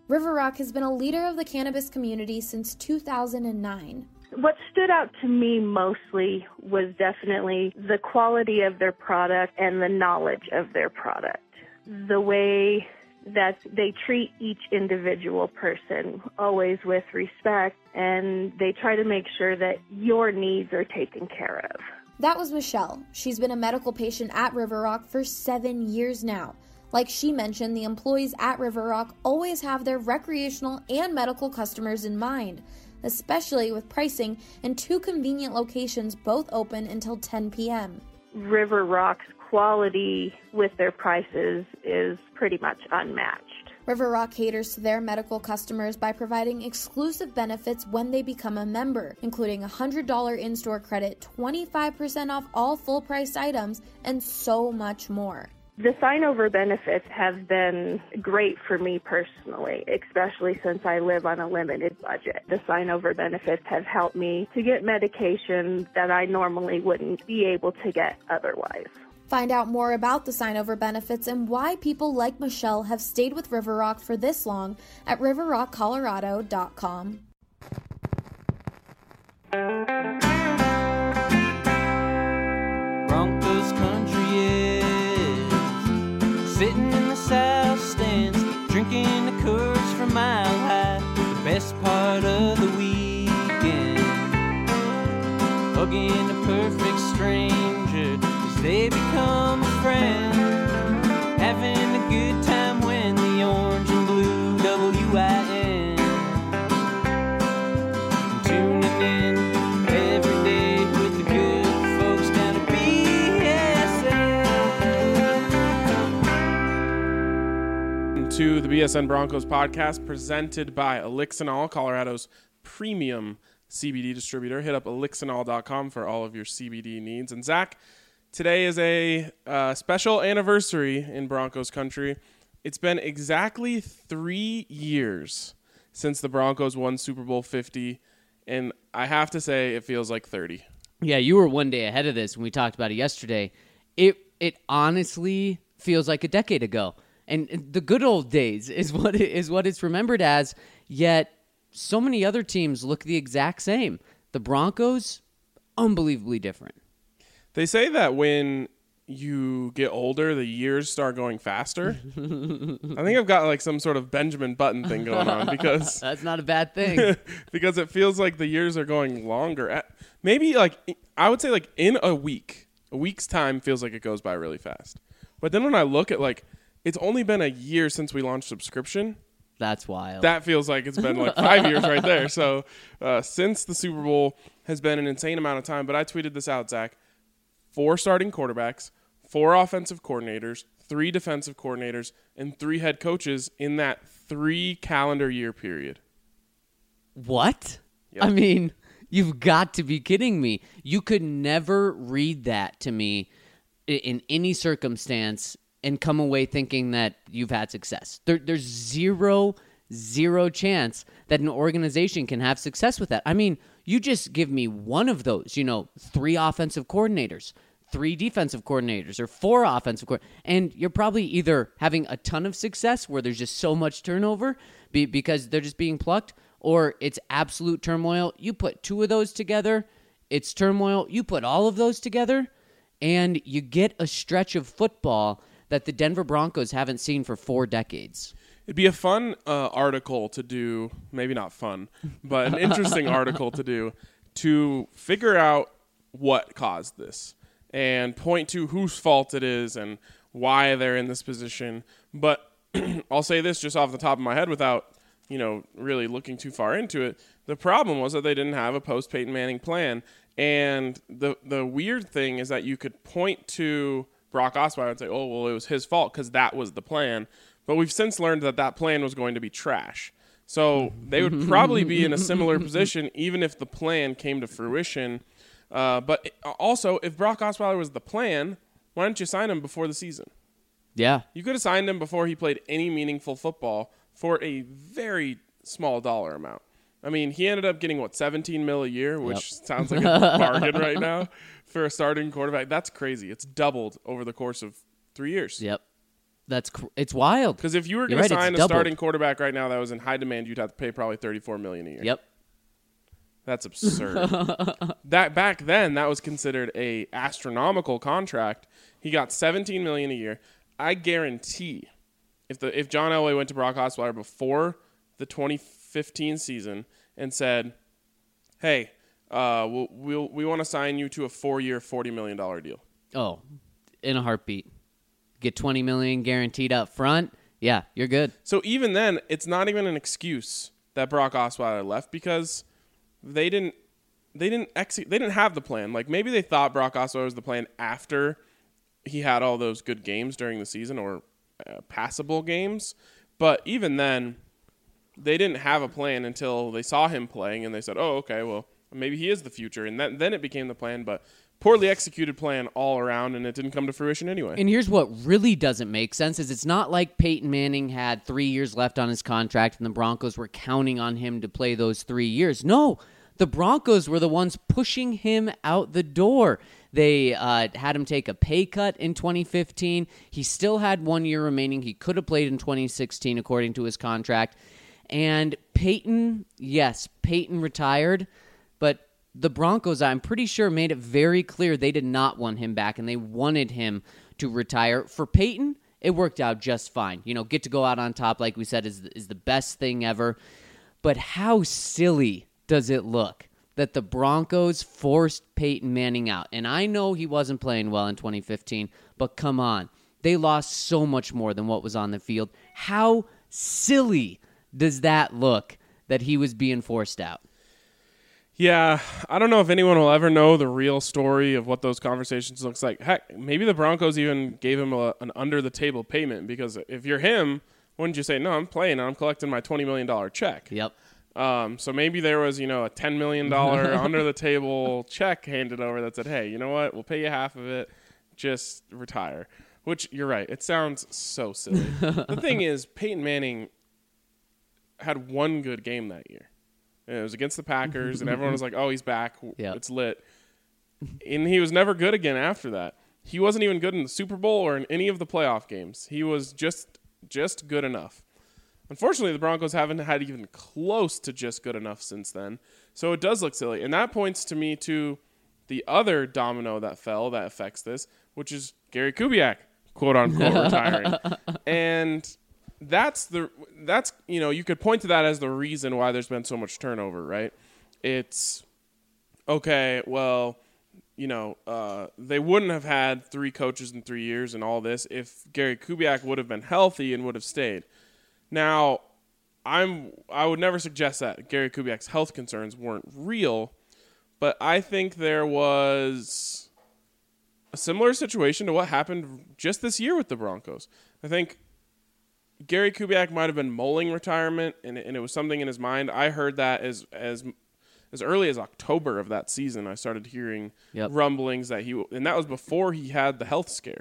River Rock has been a leader of the cannabis community since 2009. What stood out to me mostly was definitely the quality of their product and the knowledge of their product. The way that they treat each individual person, always with respect, and they try to make sure that your needs are taken care of. That was Michelle. She's been a medical patient at River Rock for 7 years now. Like she mentioned, the employees at River Rock always have their recreational and medical customers in mind, especially with pricing and 2 convenient locations both open until 10 p.m. River Rock's quality with their prices is pretty much unmatched. River Rock caters to their medical customers by providing exclusive benefits when they become a member, including a $100 in-store credit, 25% off all full-priced items, and so much more. The sign-over benefits have been great for me personally, especially since I live on a limited budget. The sign-over benefits have helped me to get medication that I normally wouldn't be able to get otherwise. Find out more about the sign-over benefits and why people like Michelle have stayed with River Rock for this long at riverrockcolorado.com. Broncos country is sitting in the south stands, drinking the Coors from Mile High, the best part of the weekend, hugging a perfect stranger as they become a friend, having a good time when the orange and blue WIN, tuning in every day with the good folks down at BSN. To the BSN Broncos podcast presented by Elixinol, Colorado's premium CBD distributor. Hit up elixinol.com for all of your CBD needs. And Zach, today is a special anniversary in Broncos country. It's been exactly 3 years since the Broncos won Super Bowl 50, and I have to say it feels like 30. Yeah, you were one day ahead of this when we talked about it yesterday. It honestly feels like a decade ago. And the good old days is what it's remembered as, yet so many other teams look the exact same. The Broncos, unbelievably different. They say that when you get older, the years start going faster. I think I've got like some sort of Benjamin Button thing going on because that's not a bad thing. Because it feels like the years are going longer. Maybe like I would say like in a week's time feels like it goes by really fast. But then when I look at like it's only been a year since we launched subscription. That's wild. That feels like it's been like 5 years right there. So since the Super Bowl has been an insane amount of time. But I tweeted this out, Zach. 4 starting quarterbacks, 4 offensive coordinators, 3 defensive coordinators, and 3 head coaches in that 3 calendar year period. What? Yep. I mean, you've got to be kidding me. You could never read that to me in any circumstance and come away thinking that you've had success. There's zero chance that an organization can have success with that. I mean, you just give me one of those, 3 offensive coordinators, 3 defensive coordinators, or 4 offensive coordinators, and you're probably either having a ton of success where there's just so much turnover because they're just being plucked, or it's absolute turmoil. You put 2 of those together, it's turmoil. You put all of those together, and you get a stretch of football that the Denver Broncos haven't seen for 4 decades. It'd be a fun article to do, maybe not fun, but an interesting article to do to figure out what caused this and point to whose fault it is and why they're in this position. But I'll say this just off the top of my head without, really looking too far into it. The problem was that they didn't have a post-Peyton Manning plan. And the weird thing is that you could point to Brock Osweiler and say, oh, well, it was his fault because that was the plan. But we've since learned that that plan was going to be trash. So they would probably be in a similar position even if the plan came to fruition. But also, if Brock Osweiler was the plan, why didn't you sign him before the season? Yeah. You could have signed him before he played any meaningful football for a very small dollar amount. I mean, he ended up getting, $17 million a year, which sounds like a bargain right now for a starting quarterback. That's crazy. It's doubled over the course of 3 years. Yep. It's wild. Because if you were You're going to right, sign it's a doubled. starting quarterback right now that was in high demand, you'd have to pay probably $34 million a year. Yep. That's absurd. That back then, that was considered a astronomical contract. He got $17 million a year. I guarantee, if John Elway went to Brock Osweiler before the 2015 season and said, "Hey, we want to sign you to a 4-year, $40 million deal," Oh, in a heartbeat. Get $20 million guaranteed up front. Yeah, you're good. So even then, it's not even an excuse that Brock Osweiler left because they didn't have the plan. Like maybe they thought Brock Osweiler was the plan after he had all those good games during the season or passable games, but even then, they didn't have a plan until they saw him playing and they said, "Oh, okay, well maybe he is the future," and then it became the plan. But poorly executed plan all around, and it didn't come to fruition anyway. And here's what really doesn't make sense is it's not like Peyton Manning had 3 years left on his contract and the Broncos were counting on him to play those 3 years. No, the Broncos were the ones pushing him out the door. They had him take a pay cut in 2015. He still had 1 year remaining. He could have played in 2016 according to his contract. And Peyton retired, but the Broncos, I'm pretty sure, made it very clear they did not want him back, and they wanted him to retire. For Peyton, it worked out just fine. Get to go out on top, like we said, is the best thing ever. But how silly does it look that the Broncos forced Peyton Manning out? And I know he wasn't playing well in 2015, but come on. They lost so much more than what was on the field. How silly does that look that he was being forced out? Yeah, I don't know if anyone will ever know the real story of what those conversations looks like. Heck, maybe the Broncos even gave him an under-the-table payment because if you're him, wouldn't you say, "No, I'm playing and I'm collecting my $20 million check"? Yep. So maybe there was, a $10 million under-the-table check handed over that said, "Hey, you know what? We'll pay you half of it. Just retire." Which, you're right. It sounds so silly. The thing is, Peyton Manning had one good game that year. And it was against the Packers, and everyone was like, "Oh, he's back. Yep. It's lit." And he was never good again after that. He wasn't even good in the Super Bowl or in any of the playoff games. He was just good enough. Unfortunately, the Broncos haven't had even close to just good enough since then. So it does look silly. And that points to me to the other domino that fell that affects this, which is Gary Kubiak, quote unquote, retiring. And that's you could point to that as the reason why there's been so much turnover, right? It's okay, well, they wouldn't have had 3 coaches in 3 years and all this if Gary Kubiak would have been healthy and would have stayed. Now, I would never suggest that Gary Kubiak's health concerns weren't real, but I think there was a similar situation to what happened just this year with the Broncos. I think Gary Kubiak might have been mulling retirement, and it was something in his mind. I heard that as early as October of that season. I started hearing rumblings that and that was before he had the health scare.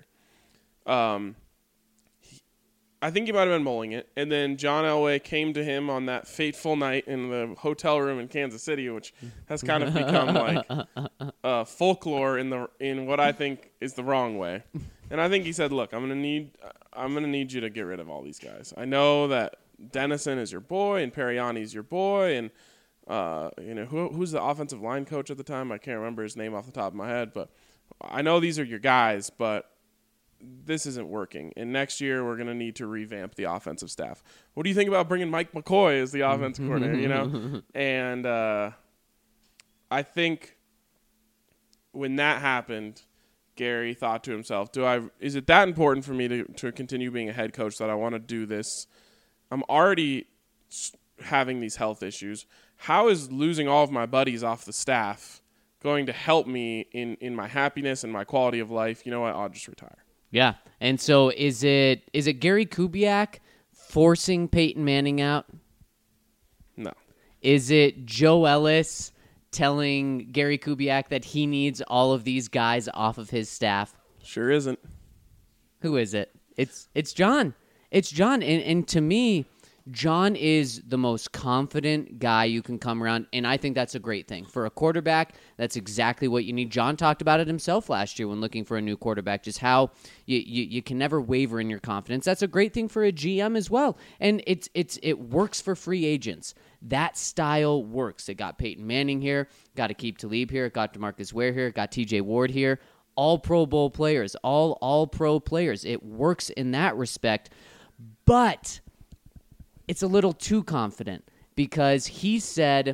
I think he might have been mulling it, and then John Elway came to him on that fateful night in the hotel room in Kansas City, which has kind of become like folklore in what I think is the wrong way. And I think he said, "Look, I'm gonna need you to get rid of all these guys. I know that Dennison is your boy and Periani's your boy, and who's the offensive line coach at the time? I can't remember his name off the top of my head, but I know these are your guys, but this isn't working. And next year we're gonna need to revamp the offensive staff. What do you think about bringing Mike McCoy as the offensive coordinator? And I think when that happened, Gary thought to himself, is it that important for me to continue being a head coach that I want to do this? I'm already having these health issues. How is losing all of my buddies off the staff going to help me in my happiness and my quality of life? You know what? I'll just retire. Yeah. And so is it Gary Kubiak forcing Peyton Manning out? No. Is it Joe Ellis telling Gary Kubiak that he needs all of these guys off of his staff? Sure isn't. Who is it? It's John. It's John. And to me, John is the most confident guy you can come around, and I think that's a great thing. For a quarterback, that's exactly what you need. John talked about it himself last year when looking for a new quarterback, just how you can never waver in your confidence. That's a great thing for a GM as well, and it works for free agents. That style works. It got Peyton Manning here, got Aqib Talib here, got DeMarcus Ware here, got TJ Ward here. All Pro Bowl players, all pro players. It works in that respect, but it's a little too confident because he said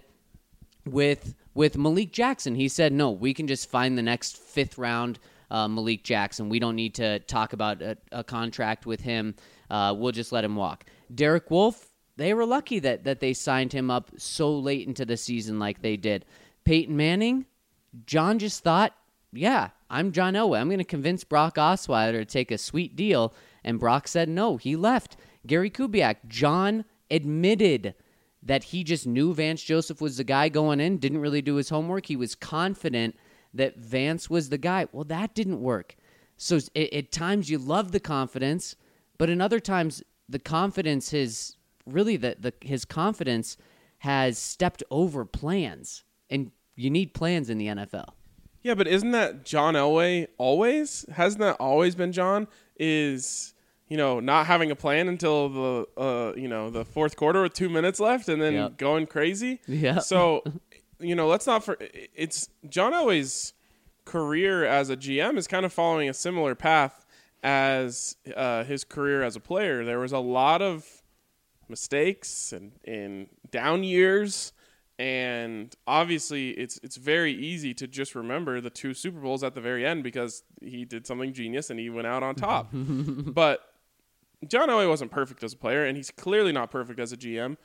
with Malik Jackson, he said, no, we can just find the next 5th round Malik Jackson. We don't need to talk about a contract with him. We'll just let him walk. Derek Wolfe, they were lucky that they signed him up so late into the season like they did. Peyton Manning, John just thought, yeah, I'm John Elway. I'm going to convince Brock Osweiler to take a sweet deal. And Brock said no. He left. Gary Kubiak, John admitted that he just knew Vance Joseph was the guy going in, didn't really do his homework. He was confident that Vance was the guy. Well, that didn't work. So at times you love the confidence, but in other times the confidence is really his confidence has stepped over plans. And you need plans in the NFL. Yeah, but isn't that John Elway always? Hasn't that always been John? Is, not having a plan until the fourth quarter with 2 minutes left and then going crazy? Yeah. So, let's not it's John Elway's career as a GM is kind of following a similar path as his career as a player. There was a lot of mistakes and down years. And obviously, it's very easy to just remember the 2 Super Bowls at the very end because he did something genius and he went out on top. But John Elway wasn't perfect as a player, and he's clearly not perfect as a GM.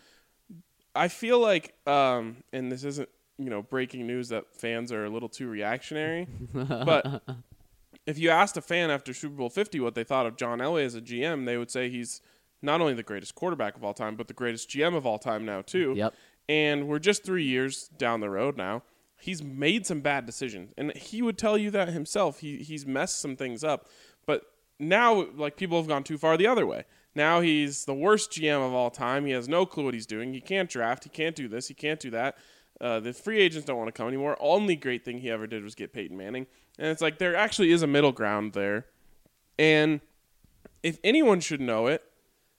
I feel like, and this isn't breaking news that fans are a little too reactionary, but if you asked a fan after Super Bowl 50 what they thought of John Elway as a GM, they would say he's not only the greatest quarterback of all time, but the greatest GM of all time now too. Yep. And we're just 3 years down the road now. He's made some bad decisions, and he would tell you that himself. He's messed some things up, but now people have gone too far the other way. Now he's the worst GM of all time. He has no clue what he's doing. He can't draft. He can't do this. He can't do that. The free agents don't want to come anymore. Only great thing he ever did was get Peyton Manning, and it's like there actually is a middle ground there. And if anyone should know it,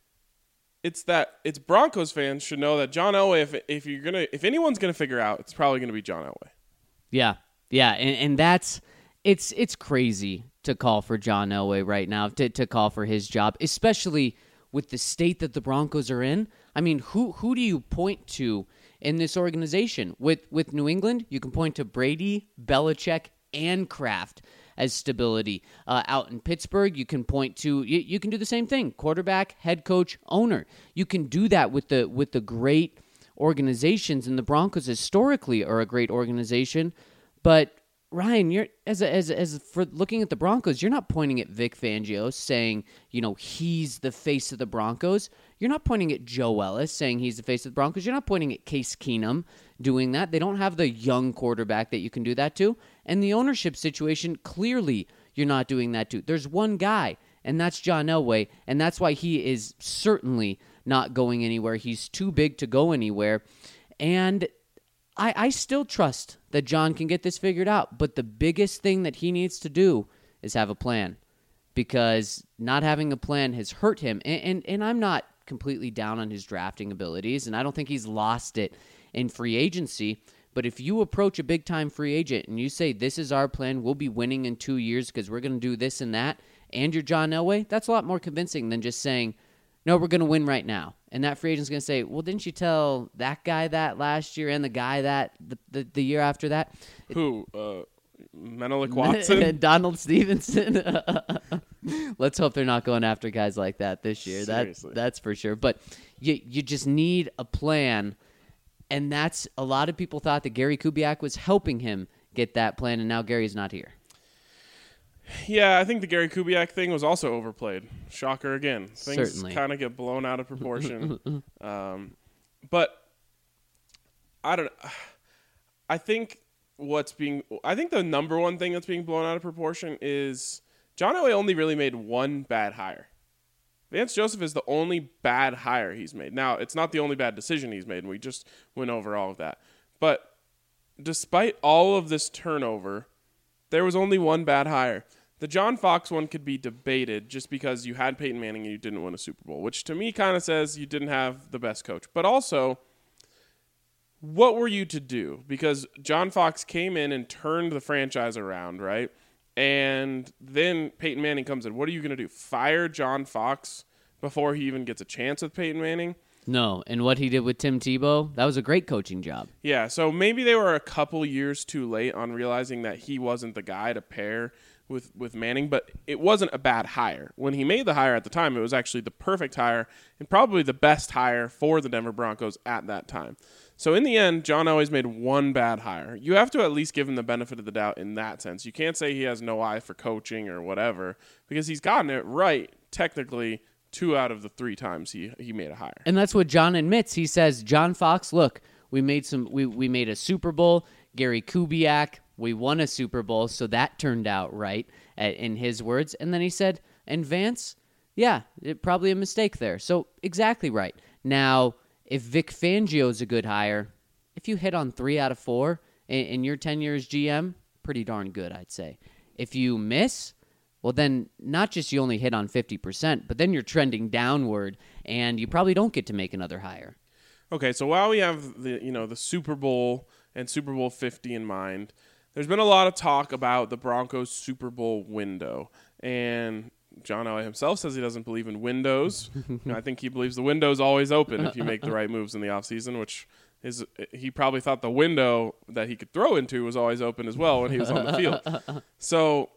it's Broncos fans should know that John Elway, if anyone's gonna figure out, it's probably gonna be John Elway. Yeah, and that's it's crazy to call for John Elway right now, to call for his job, especially with the state that the Broncos are in. I mean, who do you point to in this organization? With New England, you can point to Brady, Belichick, and Kraft as stability. Out in Pittsburgh, you can point to you can do the same thing: quarterback, head coach, owner. You can do that with the great organizations, and the Broncos historically are a great organization. But Ryan, you're as for looking at the Broncos, you're not pointing at Vic Fangio saying he's the face of the Broncos. You're not pointing at Joe Ellis saying he's the face of the Broncos. You're not pointing at Case Keenum doing that. They don't have the young quarterback that you can do that to. And the ownership situation, clearly you're not doing that to. There's one guy, and that's John Elway, and that's why he is certainly not going anywhere. He's too big to go anywhere. And I still trust that John can get this figured out, but the biggest thing that he needs to do is have a plan, because not having a plan has hurt him. And I'm not completely down on his drafting abilities, and I don't think he's lost it in free agency. But if you approach a big-time free agent and you say, this is our plan, we'll be winning in 2 years because we're going to do this and that, and you're John Elway, that's a lot more convincing than just saying, no, we're going to win right now. And that free agent's going to say, well, didn't you tell that guy that last year and the guy that the year after that? Who? Menelik Watson? Donald Stevenson? Let's hope they're not going after guys like that this year. Seriously. That's for sure. But you just need a plan. And that's a lot of people thought that Gary Kubiak was helping him get that plan, and now Gary's not here. Yeah, I think the Gary Kubiak thing was also overplayed. Shocker again. Things kind of get blown out of proportion. But I don't know. I think the number one thing that's being blown out of proportion is John Elway only really made one bad hire. Vance Joseph is the only bad hire he's made. Now, it's not the only bad decision he's made, and we just went over all of that. But despite all of this turnover, there was only one bad hire. The John Fox one could be debated just because you had Peyton Manning and you didn't win a Super Bowl, which to me kind of says you didn't have the best coach. But also, what were you to do? Because John Fox came in and turned the franchise around, right? And then Peyton Manning comes in. What are you going to do? Fire John Fox before he even gets a chance with Peyton Manning? No, and what he did with Tim Tebow, that was a great coaching job. Yeah, so maybe they were a couple years too late on realizing that he wasn't the guy to pair with Manning, but it wasn't a bad hire. When he made the hire at the time, it was actually the perfect hire and probably the best hire for the Denver Broncos at that time. So in the end, John Elway's made one bad hire. You have to at least give him the benefit of the doubt in that sense. You can't say he has no eye for coaching or whatever, because he's gotten it right technically 2 out of the 3 times he made a hire. And that's what John admits. He says, John Fox, look, we made a Super Bowl. Gary Kubiak, we won a Super Bowl, so that turned out right, in his words. And then he said, and Vance, yeah, probably a mistake there. So exactly right. Now, if Vic Fangio's a good hire, if you hit on 3 out of 4 in your tenure as GM, pretty darn good, I'd say. If you miss, well, then not just you only hit on 50%, but then you're trending downward, and you probably don't get to make another hire. Okay, so while we have the Super Bowl and Super Bowl 50 in mind, there's been a lot of talk about the Broncos Super Bowl window, and John Elway himself says he doesn't believe in windows. I think he believes the window's always open if you make the right moves in the offseason, which is he probably thought the window that he could throw into was always open as well when he was on the field. So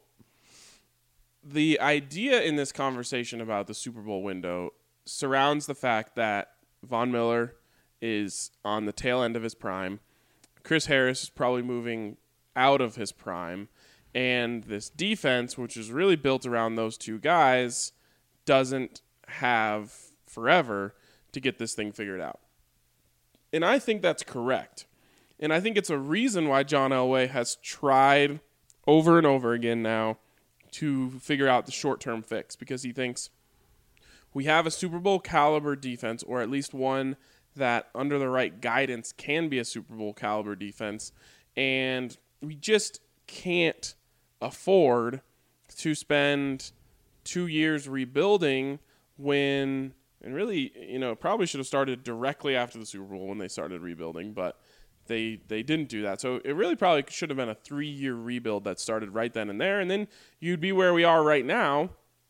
the idea in this conversation about the Super Bowl window surrounds the fact that Von Miller is on the tail end of his prime. Chris Harris is probably moving out of his prime. And this defense, which is really built around those two guys, doesn't have forever to get this thing figured out. And I think that's correct. And I think it's a reason why John Elway has tried over and over again now to figure out the short-term fix, because he thinks we have a Super Bowl caliber defense, or at least one that under the right guidance can be a Super Bowl caliber defense, and we just can't afford to spend 2 years rebuilding when, and really, probably should have started directly after the Super Bowl when they started rebuilding, but they didn't do that. So it really probably should have been a 3-year rebuild that started right then and there, and then you'd be where we are right now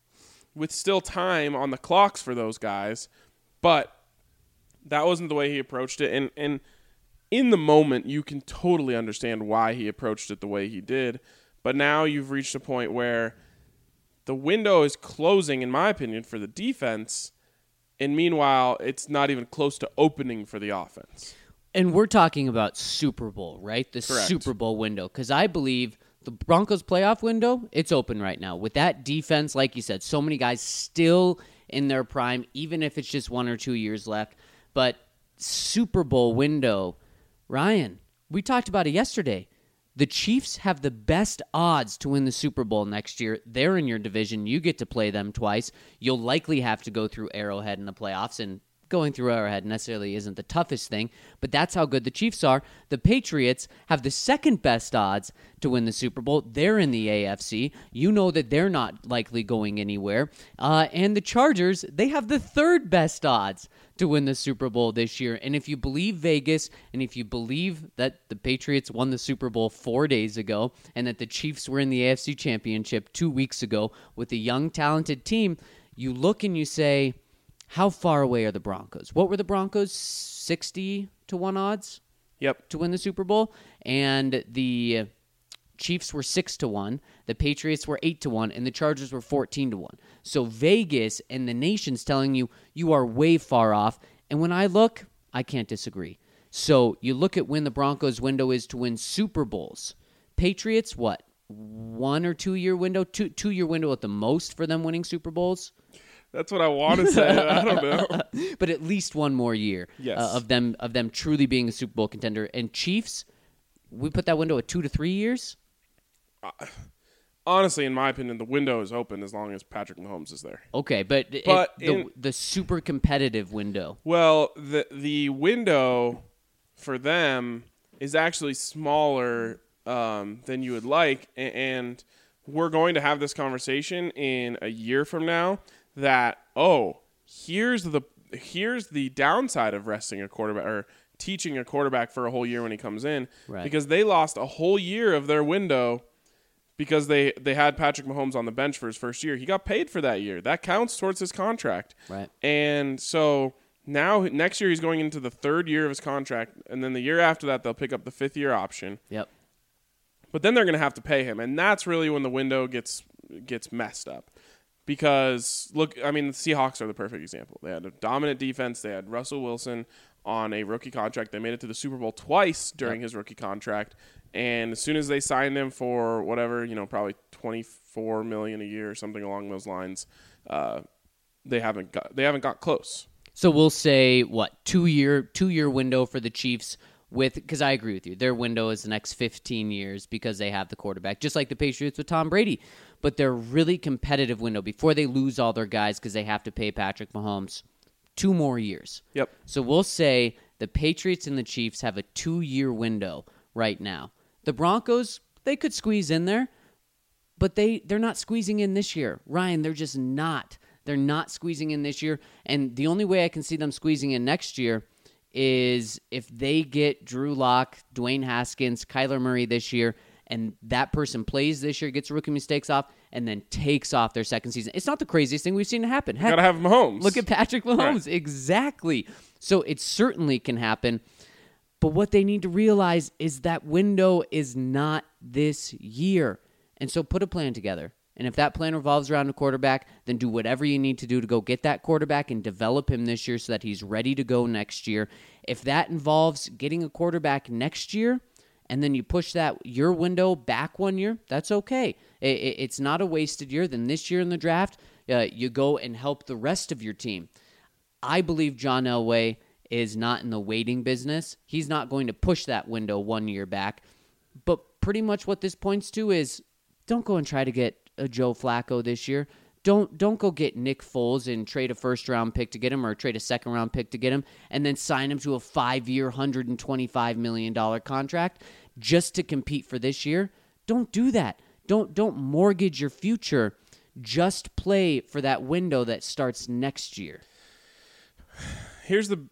with still time on the clocks for those guys. But that wasn't the way he approached it, and in the moment you can totally understand why he approached it the way he did. But now you've reached a point where the window is closing, in my opinion, for the defense, and meanwhile it's not even close to opening for the offense. And we're talking about Super Bowl, right? The Correct. Super Bowl window. Because I believe the Broncos playoff window, it's open right now. With that defense, like you said, so many guys still in their prime, even if it's just 1 or 2 years left. But Super Bowl window, Ryan, we talked about it yesterday. The Chiefs have the best odds to win the Super Bowl next year. They're in your division. You get to play them twice. You'll likely have to go through Arrowhead in the playoffs, and going through Arrowhead necessarily isn't the toughest thing, but that's how good the Chiefs are. The Patriots have the second best odds to win the Super Bowl. They're in the AFC. You know that they're not likely going anywhere. And the Chargers, they have the third best odds to win the Super Bowl this year. And if you believe Vegas, and if you believe that the Patriots won the Super Bowl 4 days ago, and that the Chiefs were in the AFC Championship 2 weeks ago with a young, talented team, you look and you say, how far away are the Broncos? What were the Broncos? 60 to 1 odds? Yep. To win the Super Bowl. And the Chiefs were 6 to 1. The Patriots were 8 to 1. And the Chargers were 14 to 1. So Vegas and the nation's telling you, you are way far off. And when I look, I can't disagree. So you look at when the Broncos' window is to win Super Bowls. Patriots, what? 1 or 2 year window? Two-year window at the most for them winning Super Bowls? That's what I want to say. I don't know. But at least one more year of them truly being a Super Bowl contender. And Chiefs, we put that window at 2 to 3 years? honestly, in my opinion, the window is open as long as Patrick Mahomes is there. Okay, but the super competitive window. Well, the window for them is actually smaller than you would like, and we're going to have this conversation in a year from now that, here's the downside of resting a quarterback or teaching a quarterback for a whole year when he comes in, right. Because they lost a whole year of their window because they had Patrick Mahomes on the bench for his first year. He got paid for that year. That counts towards his contract. Right. And so now next year he's going into the third year of his contract, and then the year after that they'll pick up the fifth year option. Yep. But then they're going to have to pay him, and that's really when the window gets messed up. Because, look, I mean, the Seahawks are the perfect example. They had a dominant defense. They had Russell Wilson on a rookie contract. They made it to the Super Bowl twice during his rookie contract. And as soon as they signed him for whatever, probably $24 million a year or something along those lines, they haven't got close. So we'll say, what, 2-year window for the Chiefs because I agree with you. Their window is the next 15 years because they have the quarterback, just like the Patriots with Tom Brady. But their really competitive window before they lose all their guys because they have to pay Patrick Mahomes 2 more years. Yep. So we'll say the Patriots and the Chiefs have a 2-year window right now. The Broncos, they could squeeze in there, but they're not squeezing in this year. Ryan, they're just not. They're not squeezing in this year. And the only way I can see them squeezing in next year is if they get Drew Lock, Dwayne Haskins, Kyler Murray this year, and that person plays this year, gets rookie mistakes off, and then takes off their second season. It's not the craziest thing we've seen happen. You got to have Mahomes. Look at Patrick Mahomes. Right. Exactly. So it certainly can happen. But what they need to realize is that window is not this year. And so put a plan together. And if that plan revolves around a quarterback, then do whatever you need to do to go get that quarterback and develop him this year so that he's ready to go next year. If that involves getting a quarterback next year, and then you push your window back 1 year, that's okay. It's not a wasted year. Then this year in the draft, you go and help the rest of your team. I believe John Elway is not in the waiting business. He's not going to push that window 1 year back. But pretty much what this points to is don't go and try to get a Joe Flacco this year. Don't go get Nick Foles and trade a first-round pick to get him or trade a second-round pick to get him and then sign him to a 5-year, $125 million contract just to compete for this year. Don't do that. Don't mortgage your future. Just play for that window that starts next year. Here's the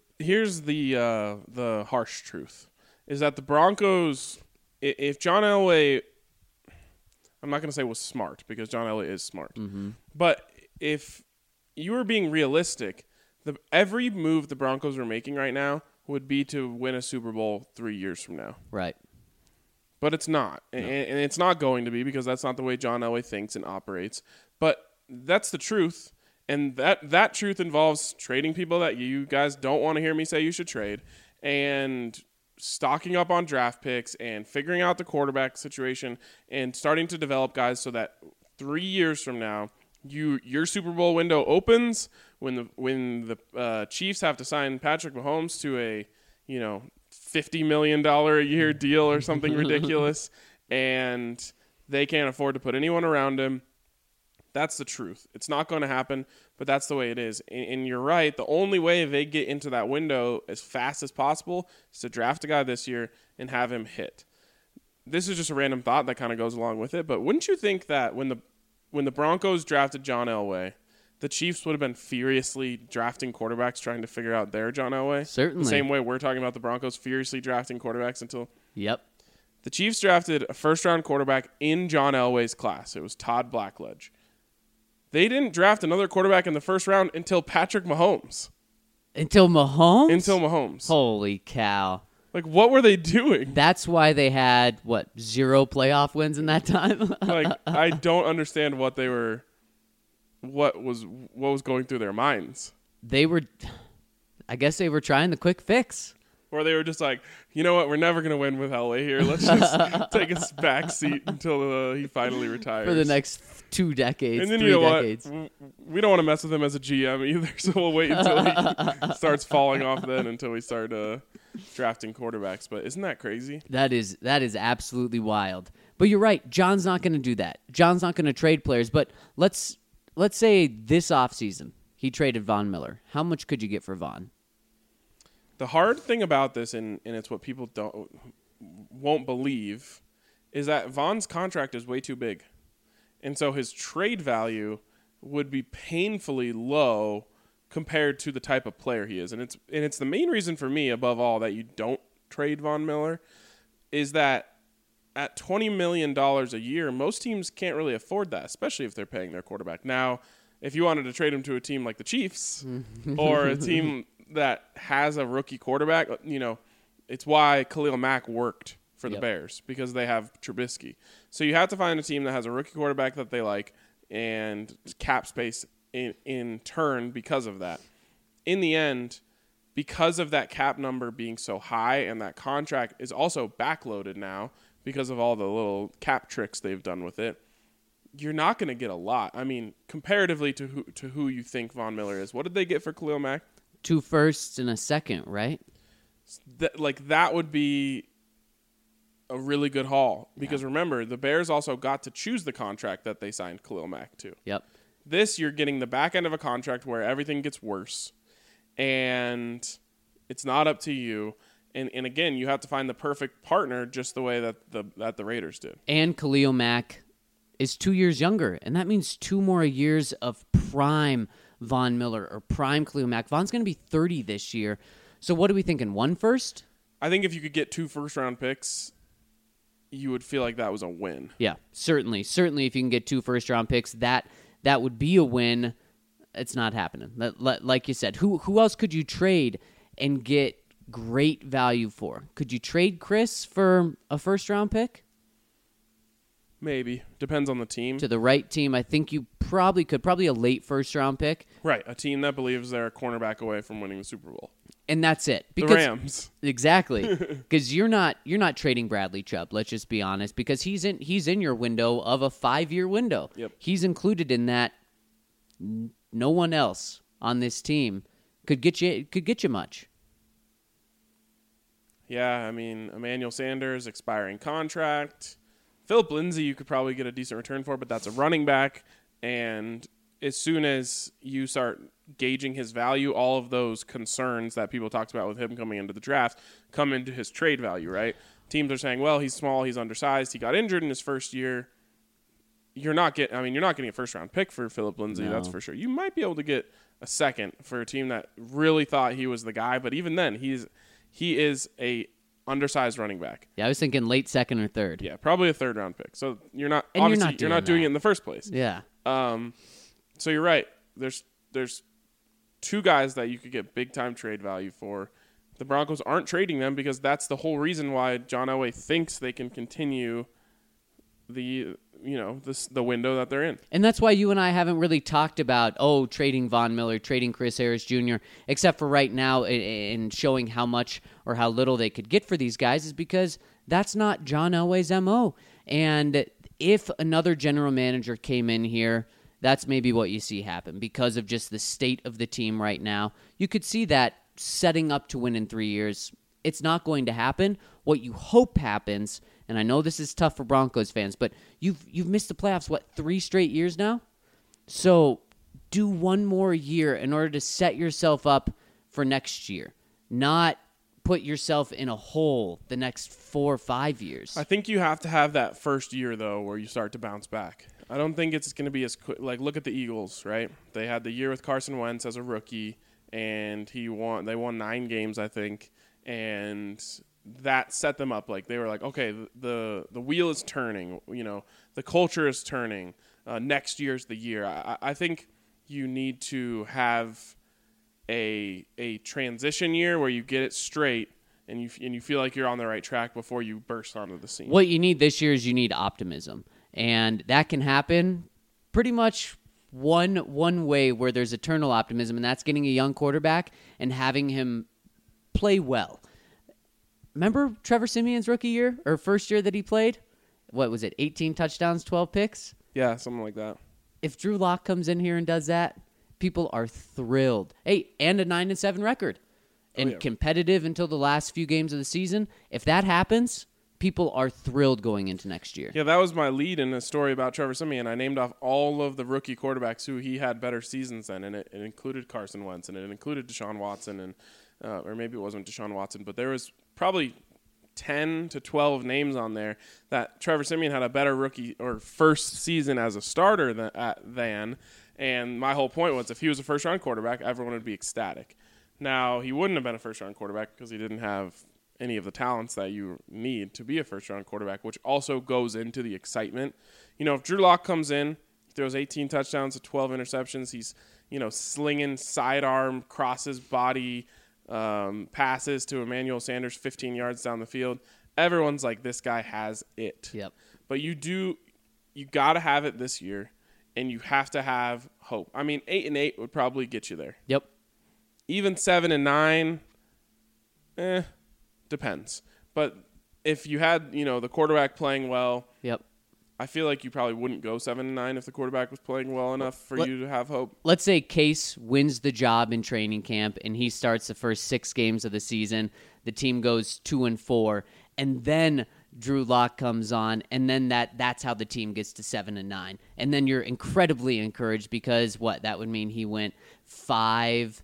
harsh truth is that the Broncos, if John Elway, I'm not going to say was smart because John Elway is smart, but if you were being realistic, every move the Broncos are making right now would be to win a Super Bowl 3 years from now. Right. But it's not, and it's not going to be because that's not the way John Elway thinks and operates. But that's the truth. And that truth involves trading people that you guys don't want to hear me say you should trade and stocking up on draft picks and figuring out the quarterback situation and starting to develop guys so that 3 years from now, your Super Bowl window opens when the Chiefs have to sign Patrick Mahomes to a $50 million a year deal or something ridiculous, and they can't afford to put anyone around him. That's the truth. It's not going to happen, but that's the way it is. And you're right. The only way they get into that window as fast as possible is to draft a guy this year and have him hit. This is just a random thought that kind of goes along with it, but wouldn't you think that when the Broncos drafted John Elway, the Chiefs would have been furiously drafting quarterbacks trying to figure out their John Elway? Certainly. The same way we're talking about the Broncos furiously drafting quarterbacks until... Yep. The Chiefs drafted a first-round quarterback in John Elway's class. It was Todd Blackledge. They didn't draft another quarterback in the first round until Patrick Mahomes. Until Mahomes? Until Mahomes. Holy cow. Like, what were they doing? That's why they had, 0 playoff wins in that time? I don't understand what was going through their minds. I guess they were trying the quick fix. Or they were just like, you know what, we're never going to win with Elway here. Let's just take a back seat until he finally retires. For the next 2 decades, and then 3 you know decades. what? We don't want to mess with him as a GM either, so we'll wait until he starts falling off then until we start drafting quarterbacks. But isn't that crazy? That is absolutely wild. But you're right. John's not going to do that. John's not going to trade players. But let's say this offseason he traded Von Miller. How much could you get for Von? The hard thing about this, and it's what people won't believe, is that Von's contract is way too big. And so his trade value would be painfully low compared to the type of player he is. And it's the main reason for me, above all, that you don't trade Von Miller, is that at $20 million a year, most teams can't really afford that, especially if they're paying their quarterback. Now, if you wanted to trade him to a team like the Chiefs or a team that has a rookie quarterback, it's why Khalil Mack worked for the Bears, because they have Trubisky. So you have to find a team that has a rookie quarterback that they like and cap space in turn because of that. In the end, because of that cap number being so high and that contract is also backloaded now because of all the little cap tricks they've done with it, you're not going to get a lot. I mean, comparatively to who you think Von Miller is. What did they get for Khalil Mack? 2 firsts and a second, right? That would be a really good haul. Because remember, the Bears also got to choose the contract that they signed Khalil Mack to. Yep. This, you're getting the back end of a contract where everything gets worse. And it's not up to you. And again, you have to find the perfect partner just the way that the Raiders did. And Khalil Mack is 2 years younger. And that means 2 more years of prime Von Miller or prime Khalil Mack. Von's going to be 30 this year. So what are we thinking, 1 first? I think if you could get 2 first-round picks, you would feel like that was a win. Yeah, certainly. Certainly if you can get 2 first-round picks, that would be a win. It's not happening. Like you said, who else could you trade and get great value for? Could you trade Chris for a first-round pick? Maybe. Depends on the team. To the right team, I think you probably could. Probably a late first-round pick. Right, a team that believes they're a cornerback away from winning the Super Bowl. And that's it. The Rams. Exactly. Because you're not trading Bradley Chubb, let's just be honest, because he's in your window of a 5-year window. Yep. He's included in that. No one else on this team could get you much. Yeah, I mean, Emmanuel Sanders, expiring contract. Philip Lindsay, you could probably get a decent return for, but that's a running back. And as soon as you start gauging his value, all of those concerns that people talked about with him coming into the draft come into his trade value, right? Teams are saying, well, he's small, he's undersized, he got injured in his first year. You're not getting a first-round pick for Philip Lindsay, No. That's for sure. You might be able to get a second for a team that really thought he was the guy, but even then, he is a undersized running back. Yeah, I was thinking late second or third. Yeah, probably a third-round pick. So you're not And you're not doing it in the first place. Yeah. So you're right. There's 2 guys that you could get big-time trade value for. The Broncos aren't trading them because that's the whole reason why John Elway thinks they can continue the window that they're in. And that's why you and I haven't really talked about, trading Von Miller, trading Chris Harris Jr., except for right now in showing how much or how little they could get for these guys, is because that's not John Elway's MO. And if another general manager came in here, that's maybe what you see happen because of just the state of the team right now. You could see that setting up to win in 3 years. It's not going to happen. What you hope happens, and I know this is tough for Broncos fans, but you've missed the playoffs, 3 straight years now? So do 1 more year in order to set yourself up for next year, not put yourself in a hole the next 4 or 5 years. I think you have to have that first year, though, where you start to bounce back. I don't think it's going to be as quick. Like, look at the Eagles, right? They had the year with Carson Wentz as a rookie, and they won 9 games, I think, and that set them up. Like, they were like, okay, the wheel is turning. The culture is turning. Next year's the year. I think you need to have a transition year where you get it straight and you feel like you're on the right track before you burst onto the scene. What you need this year is you need optimism. And that can happen pretty much one way where there's eternal optimism, and that's getting a young quarterback and having him play well. Remember Trevor Siemian's rookie year or first year that he played? What was it? 18 touchdowns, 12 picks? Yeah, something like that. If Drew Lock comes in here and does that, people are thrilled. Hey, and a 9-7 record. And competitive until the last few games of the season. If that happens, people are thrilled going into next year. Yeah, that was my lead in a story about Trevor Siemian. I named off all of the rookie quarterbacks who he had better seasons than, and it included Carson Wentz, and it included Deshaun Watson, and or maybe it wasn't Deshaun Watson, but there was probably 10 to 12 names on there that Trevor Siemian had a better rookie or first season as a starter than. And my whole point was if he was a first-round quarterback, everyone would be ecstatic. Now, he wouldn't have been a first-round quarterback because he didn't have any of the talents that you need to be a first-round quarterback, which also goes into the excitement. You know, if Drew Lock comes in, throws 18 touchdowns to 12 interceptions, he's, slinging sidearm, crosses body passes to Emmanuel Sanders 15 yards down the field. Everyone's like, this guy has it. Yep. But you got to have it this year, and you have to have hope. I mean, 8-8 would probably get you there. Yep. Even 7-9, depends. But if you had, the quarterback playing well, yep, I feel like you probably wouldn't go 7-9 if the quarterback was playing well enough for you to have hope. Let's say Case wins the job in training camp and he starts the first 6 games of the season. The team goes 2-4, and then Drew Lock comes on, and then that's how the team gets to 7-9. And then you're incredibly encouraged because that would mean he went 5-6.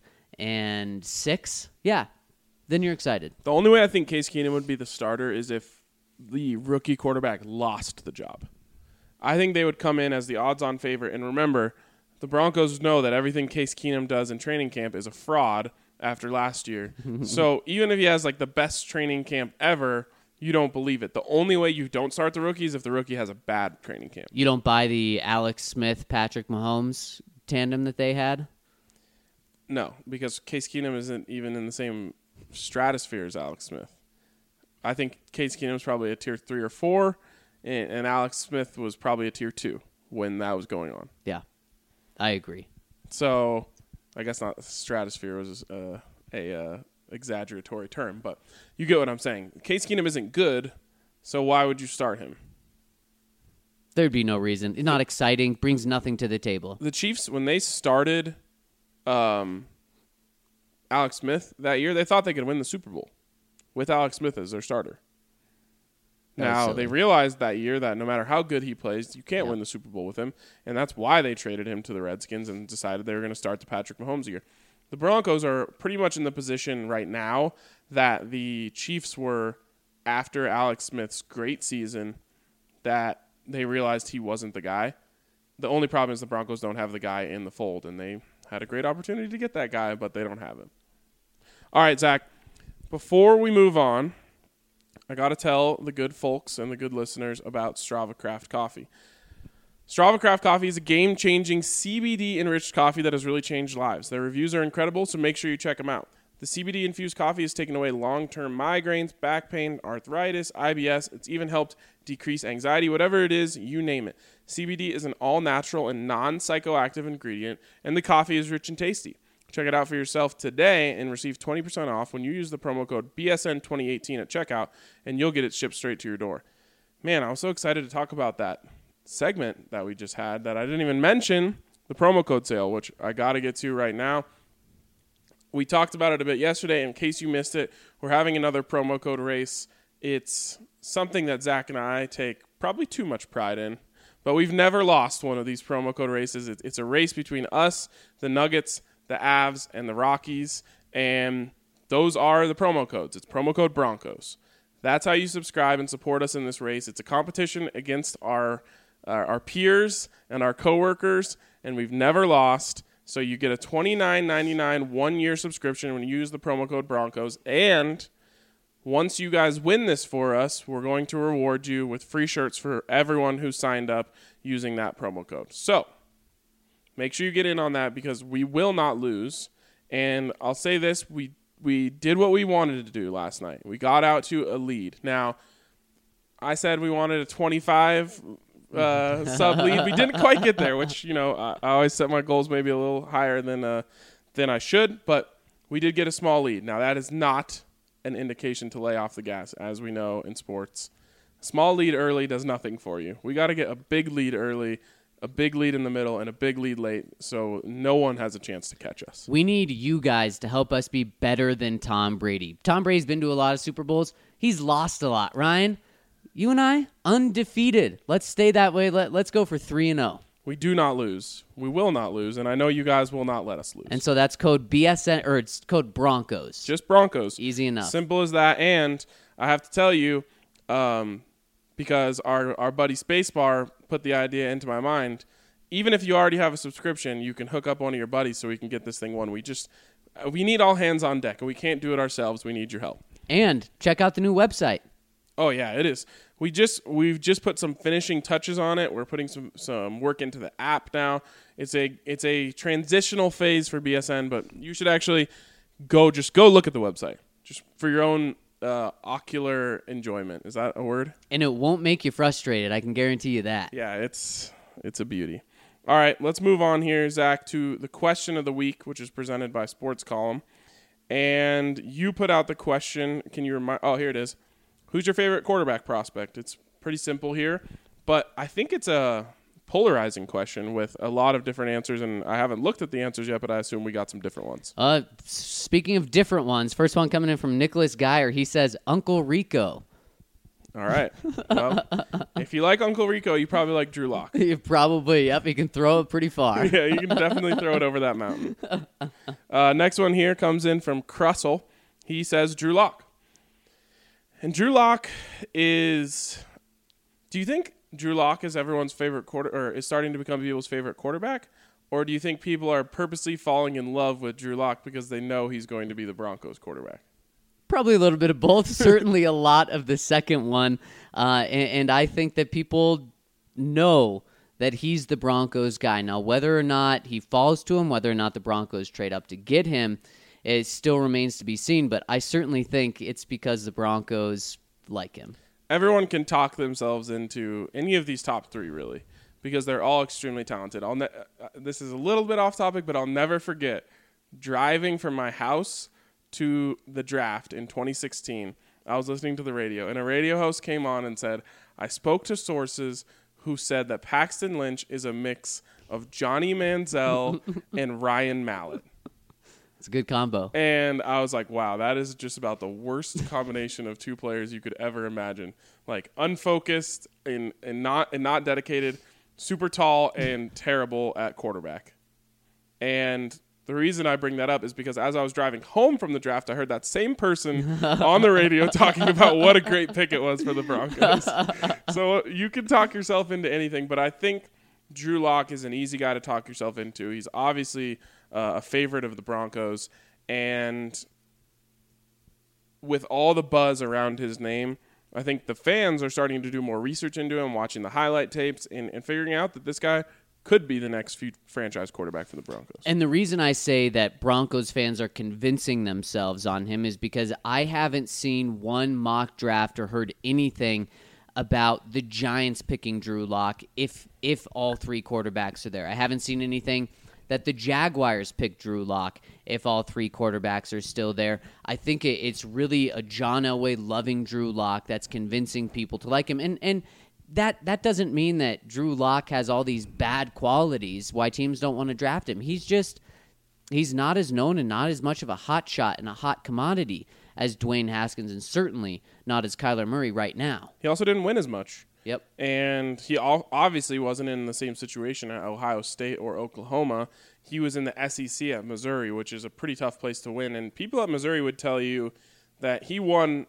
Yeah. Then you're excited. The only way I think Case Keenum would be the starter is if the rookie quarterback lost the job. I think they would come in as the odds-on favorite. And remember, the Broncos know that everything Case Keenum does in training camp is a fraud after last year. So even if he has the best training camp ever, you don't believe it. The only way you don't start the rookie is if the rookie has a bad training camp. You don't buy the Alex Smith, Patrick Mahomes tandem that they had? No, because Case Keenum isn't even in the same stratosphere as Alex Smith. I think Case Keenum's probably a tier 3 or 4, and Alex Smith was probably a tier 2 when that was going on. Yeah, I agree. So I guess not stratosphere was a exaggeratory term, but you get what I'm saying. Case Keenum isn't good, so why would you start him? There'd be no reason. It's not exciting, brings nothing to the table. The Chiefs, when they started Alex Smith that year, they thought they could win the Super Bowl with Alex Smith as their starter. Now, they realized that year that no matter how good he plays, you can't win the Super Bowl with him, and that's why they traded him to the Redskins and decided they were going to start the Patrick Mahomes year. The Broncos are pretty much in the position right now that the Chiefs were after Alex Smith's great season, that they realized he wasn't the guy. The only problem is the Broncos don't have the guy in the fold, and they had a great opportunity to get that guy, but they don't have him. All right, Zach, before we move on, I got to tell the good folks and the good listeners about Strava Craft Coffee. Strava Craft Coffee is a game-changing CBD-enriched coffee that has really changed lives. Their reviews are incredible, so make sure you check them out. The CBD-infused coffee has taken away long-term migraines, back pain, arthritis, IBS. It's even helped decrease anxiety, whatever it is, you name it. CBD is an all-natural and non-psychoactive ingredient, and the coffee is rich and tasty. Check it out for yourself today and receive 20% off when you use the promo code BSN2018 at checkout, and you'll get it shipped straight to your door. Man, I was so excited to talk about that segment that we just had that I didn't even mention the promo code sale, which I got to get to right now. We talked about it a bit yesterday. In case you missed it, we're having another promo code race. It's something that Zach and I take probably too much pride in, but we've never lost one of these promo code races. It's a race between us, the Nuggets, the Avs, and the Rockies, and those are the promo codes. It's promo code Broncos. That's how you subscribe and support us in this race. It's a competition against our peers and our coworkers, and we've never lost. So you get a $29.99 one-year subscription when you use the promo code Broncos. And once you guys win this for us, we're going to reward you with free shirts for everyone who signed up using that promo code. So make sure you get in on that because we will not lose. And I'll say this, we did what we wanted to do last night. We got out to a lead. Now, I said we wanted a 25 sub lead. We didn't quite get there, which, I always set my goals maybe a little higher than I should, but we did get a small lead. Now, that is not an indication to lay off the gas, as we know in sports. Small lead early does nothing for you. We got to get a big lead early, a big lead in the middle, and a big lead late, so no one has a chance to catch us. We need you guys to help us be better than Tom Brady. Tom Brady's been to a lot of Super Bowls. He's lost a lot. Ryan, you and I, undefeated. Let's stay that way. Let's go for 3-0. We do not lose. We will not lose, and I know you guys will not let us lose. And so that's code BSN, or it's code Broncos. Just Broncos. Easy enough. Simple as that. And I have to tell you, because our buddy Spacebar put the idea into my mind, even if you already have a subscription, you can hook up one of your buddies so we can get this thing won. We need all hands on deck, and we can't do it ourselves. We need your help. And check out the new website. Oh yeah, it is. We've just put some finishing touches on it. We're putting some work into the app now. It's a transitional phase for BSN, but you should actually go look at the website just for your own ocular enjoyment. Is that a word? And it won't make you frustrated. I can guarantee you that. Yeah, it's a beauty. All right, let's move on here, Zach, to the question of the week, which is presented by Sports Column. And you put out the question. Can you remind? Oh, here it is. Who's your favorite quarterback prospect? It's pretty simple here, but I think it's a polarizing question with a lot of different answers, and I haven't looked at the answers yet, but I assume we got some different ones. Speaking of different ones, first one coming in from Nicholas Geyer. He says, Uncle Rico. All right. Well, if you like Uncle Rico, you probably like Drew Lock. Probably, yep. He can throw it pretty far. Yeah, you can definitely throw it over that mountain. Next one here comes in from Crussell. He says Drew Lock. And Drew Lock is... Do you think Drew Lock is everyone's favorite or is starting to become people's favorite quarterback? Or do you think people are purposely falling in love with Drew Lock because they know he's going to be the Broncos quarterback? Probably a little bit of both. Certainly a lot of the second one. And I think that people know that he's the Broncos guy. Now, whether or not he falls to him, whether or not the Broncos trade up to get him, it still remains to be seen. But I certainly think it's because the Broncos like him. Everyone can talk themselves into any of these top three, really, because they're all extremely talented. This is a little bit off topic, but I'll never forget driving from my house to the draft in 2016. I was listening to the radio, and a radio host came on and said, I spoke to sources who said that Paxton Lynch is a mix of Johnny Manziel and Ryan Mallett. It's a good combo. And I was like, wow, that is just about the worst combination of two players you could ever imagine. Like unfocused and not dedicated, super tall and terrible at quarterback. And the reason I bring that up is because as I was driving home from the draft, I heard that same person on the radio talking about what a great pick it was for the Broncos. So you can talk yourself into anything, but I think Drew Lock is an easy guy to talk yourself into. He's obviously a favorite of the Broncos, and with all the buzz around his name, I think the fans are starting to do more research into him, watching the highlight tapes, and figuring out that this guy could be the next franchise quarterback for the Broncos. And the reason I say that Broncos fans are convincing themselves on him is because I haven't seen one mock draft or heard anything about the Giants picking Drew Lock if all three quarterbacks are there. I haven't seen anything that the Jaguars picked Drew Lock if all three quarterbacks are still there. I think it's really a John Elway loving Drew Lock that's convincing people to like him. And that doesn't mean that Drew Lock has all these bad qualities why teams don't want to draft him. He's not as known and not as much of a hot shot and a hot commodity as Dwayne Haskins, and certainly not as Kyler Murray right now. He also didn't win as much. Yep. And he obviously wasn't in the same situation at Ohio State or Oklahoma. He was in the SEC at Missouri, which is a pretty tough place to win. And people at Missouri would tell you that he won,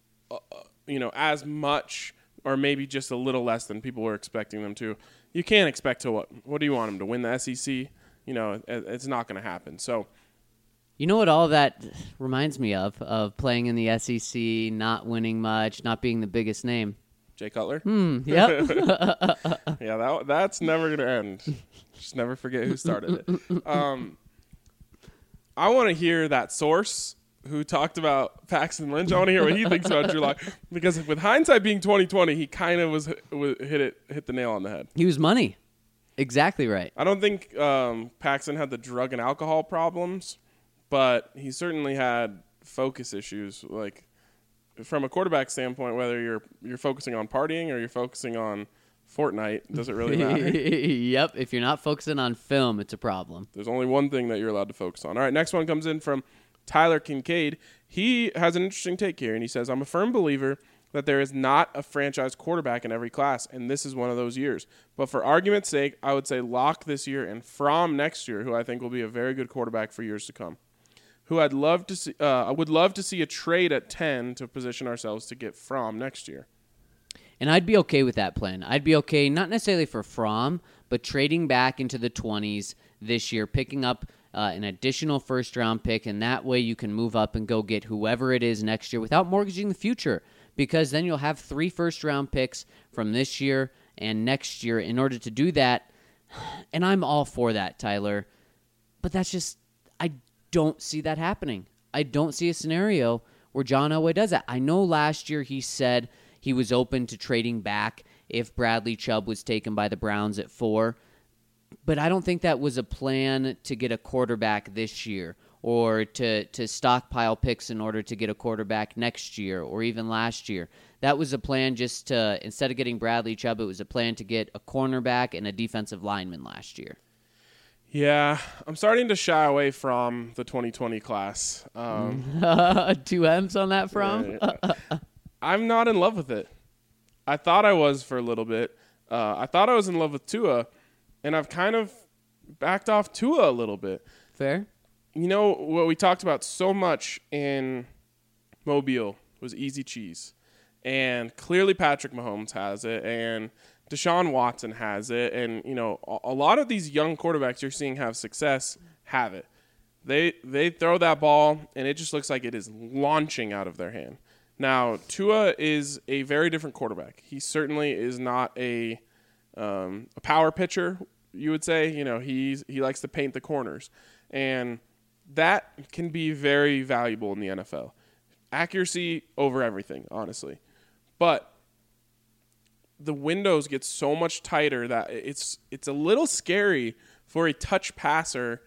as much or maybe just a little less than people were expecting them to. You can't expect to what do you want him to win the SEC? It's not going to happen. So, you know what all that reminds me of playing in the SEC, not winning much, not being the biggest name? Jay Cutler? Yep. Yeah, that's never going to end. Just never forget who started it. I want to hear that source who talked about Paxton Lynch. I want to hear what he thinks about Drew Lock, because with hindsight being 20/20, he kind of hit the nail on the head. He was money. Exactly right. I don't think Paxton had the drug and alcohol problems, but he certainly had focus issues. Like, from a quarterback standpoint, whether you're focusing on partying or you're focusing on Fortnite, does it really matter? Yep. If you're not focusing on film, it's a problem. There's only one thing that you're allowed to focus on. All right, next one comes in from Tyler Kincaid. He has an interesting take here, and he says, I'm a firm believer that there is not a franchise quarterback in every class, and this is one of those years. But for argument's sake, I would say Locke this year and Fromm next year, who I think will be a very good quarterback for years to come. Who I'd love to see. I would love to see a trade at 10 to position ourselves to get Fromm next year. And I'd be okay with that plan. I'd be okay, not necessarily for Fromm, but trading back into the 20s this year, picking up an additional first-round pick, and that way you can move up and go get whoever it is next year without mortgaging the future, because then you'll have 3 first-round picks from this year and next year in order to do that. And I'm all for that, Tyler. But that's just, I don't see that happening. I don't see a scenario where John Elway does that. I know last year he said he was open to trading back if Bradley Chubb was taken by the Browns at 4. But I don't think that was a plan to get a quarterback this year or to stockpile picks in order to get a quarterback next year or even last year. That was a plan just to, instead of getting Bradley Chubb, it was a plan to get a cornerback and a defensive lineman last year. Yeah, I'm starting to shy away from the 2020 class. 2 M's on that from? I'm not in love with it. I thought I was for a little bit. I thought I was in love with Tua, and I've kind of backed off Tua a little bit. Fair. You know, what we talked about so much in Mobile was easy cheese. And clearly Patrick Mahomes has it, and Deshaun Watson has it. And, you know, a lot of these young quarterbacks you're seeing have success have it. They throw that ball, and it just looks like it is launching out of their hand. Now, Tua is a very different quarterback. He certainly is not a power pitcher, you would say. You know, he likes to paint the corners. And that can be very valuable in the NFL. Accuracy over everything, honestly. But the windows get so much tighter that it's a little scary for a touch passer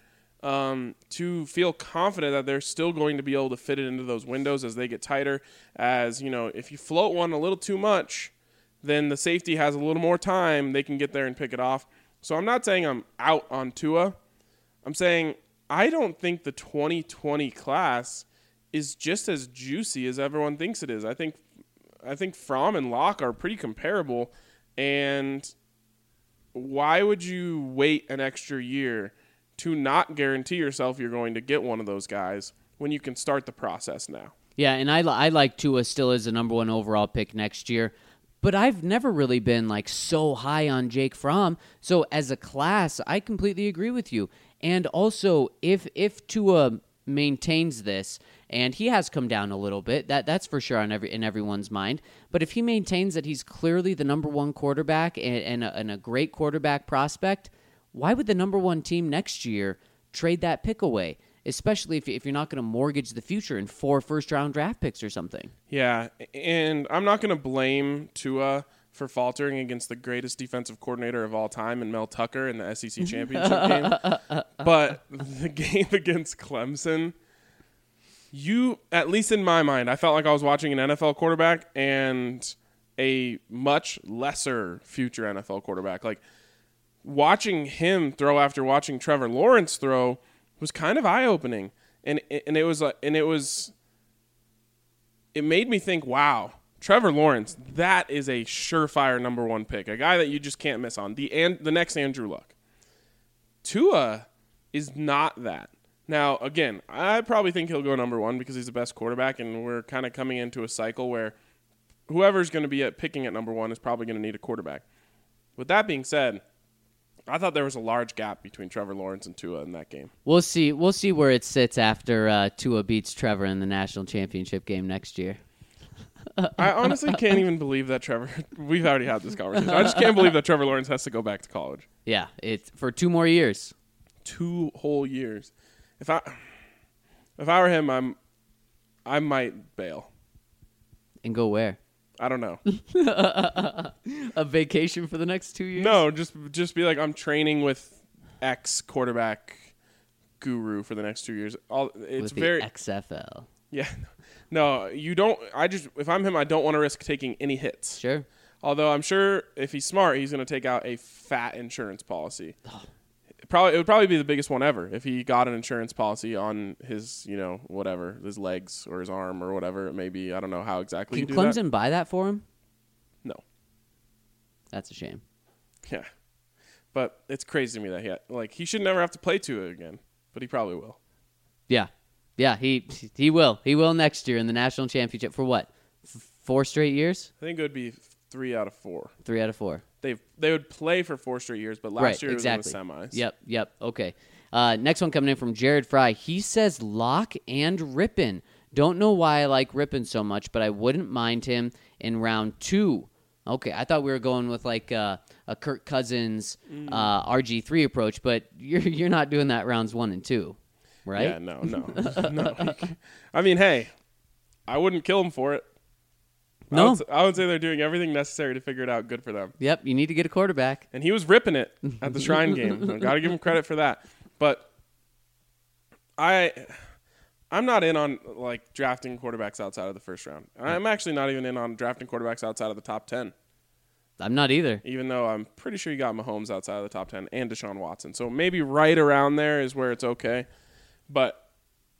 to feel confident that they're still going to be able to fit it into those windows as they get tighter. As, you know, if you float one a little too much, then the safety has a little more time. They can get there and pick it off. So I'm not saying I'm out on Tua. I'm saying I don't think the 2020 class is just as juicy as everyone thinks it is. I think Fromm and Locke are pretty comparable, and why would you wait an extra year to not guarantee yourself you're going to get one of those guys when you can start the process now? Yeah, and I like Tua still as the number 1 overall pick next year, but I've never really been like so high on Jake Fromm. So as a class, I completely agree with you. And also, if Tua maintains this, and he has come down a little bit, that's for sure in everyone's mind. But if he maintains that he's clearly the number 1 quarterback and a great quarterback prospect, why would the number 1 team next year trade that pick away? Especially if you're not going to mortgage the future in 4 first-round draft picks or something. Yeah, and I'm not going to blame Tua for faltering against the greatest defensive coordinator of all time in Mel Tucker in the SEC championship game. But the game against Clemson, at least in my mind, I felt like I was watching an NFL quarterback and a much lesser future NFL quarterback. Like, watching him throw after watching Trevor Lawrence throw was kind of eye-opening. And it made me think, wow, Trevor Lawrence, that is a surefire number 1 pick, a guy that you just can't miss on, the next Andrew Luck. Tua is not that. Now, again, I probably think he'll go number 1 because he's the best quarterback, and we're kind of coming into a cycle where whoever's going to be picking at number 1 is probably going to need a quarterback. With that being said, I thought there was a large gap between Trevor Lawrence and Tua in that game. We'll see where it sits after Tua beats Trevor in the national championship game next year. I honestly can't even believe that we've already had this conversation. I just can't believe that Trevor Lawrence has to go back to college. Yeah, it's for 2 more years. 2 whole years. If I were him, I might bail. And go where? I don't know. A vacation for the next 2 years? No, just be like, I'm training with X quarterback guru for the next 2 years. It's with the very XFL. Yeah. No, you don't. If I'm him, I don't want to risk taking any hits. Sure. Although I'm sure if he's smart, he's going to take out a fat insurance policy. It would probably be the biggest one ever if he got an insurance policy on his, whatever, his legs or his arm or whatever it may be. I don't know how exactly Can you do that. Clemson buy that for him? No. That's a shame. Yeah. But it's crazy to me that he should never have to play Tua again, but he probably will. Yeah. Yeah, he will. He will next year in the national championship for what? 4 straight years? I think it would be 3 out of 4. 3 out of 4. They would play for 4 straight years, but last year exactly. it was in the semis. Yep. Okay. Next one coming in from Jared Fry. He says Locke and Rippon. Don't know why I like Rippon so much, but I wouldn't mind him in round 2. Okay, I thought we were going with like a Kirk Cousins RG3 approach, but you're not doing that rounds 1 and 2, right? Yeah, no. No. I mean, hey, I wouldn't kill him for it. No. I would say they're doing everything necessary to figure it out. Good for them. Yep, you need to get a quarterback. And he was ripping it at the Shrine game. Got to give him credit for that. But I'm not in on drafting quarterbacks outside of the first round. I'm actually not even in on drafting quarterbacks outside of the top 10. I'm not either. Even though I'm pretty sure you got Mahomes outside of the top 10 and Deshaun Watson. So maybe right around there is where it's okay. But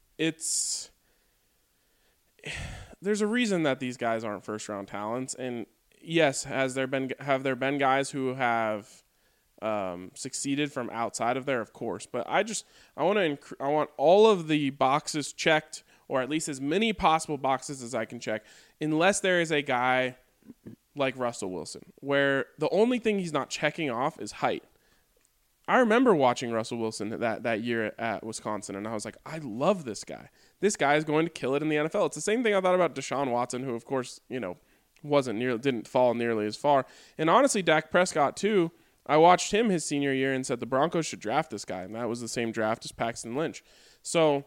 there's a reason that these guys aren't first-round talents. And yes, have there been guys who have succeeded from outside of there? Of course. But I want all of the boxes checked, or at least as many possible boxes as I can check, unless there is a guy like Russell Wilson, where the only thing he's not checking off is height. I remember watching Russell Wilson that year at Wisconsin, and I was like, I love this guy. This guy is going to kill it in the NFL. It's the same thing I thought about Deshaun Watson, who, of course, didn't fall nearly as far. And honestly, Dak Prescott, too, I watched him his senior year and said the Broncos should draft this guy, and that was the same draft as Paxton Lynch. So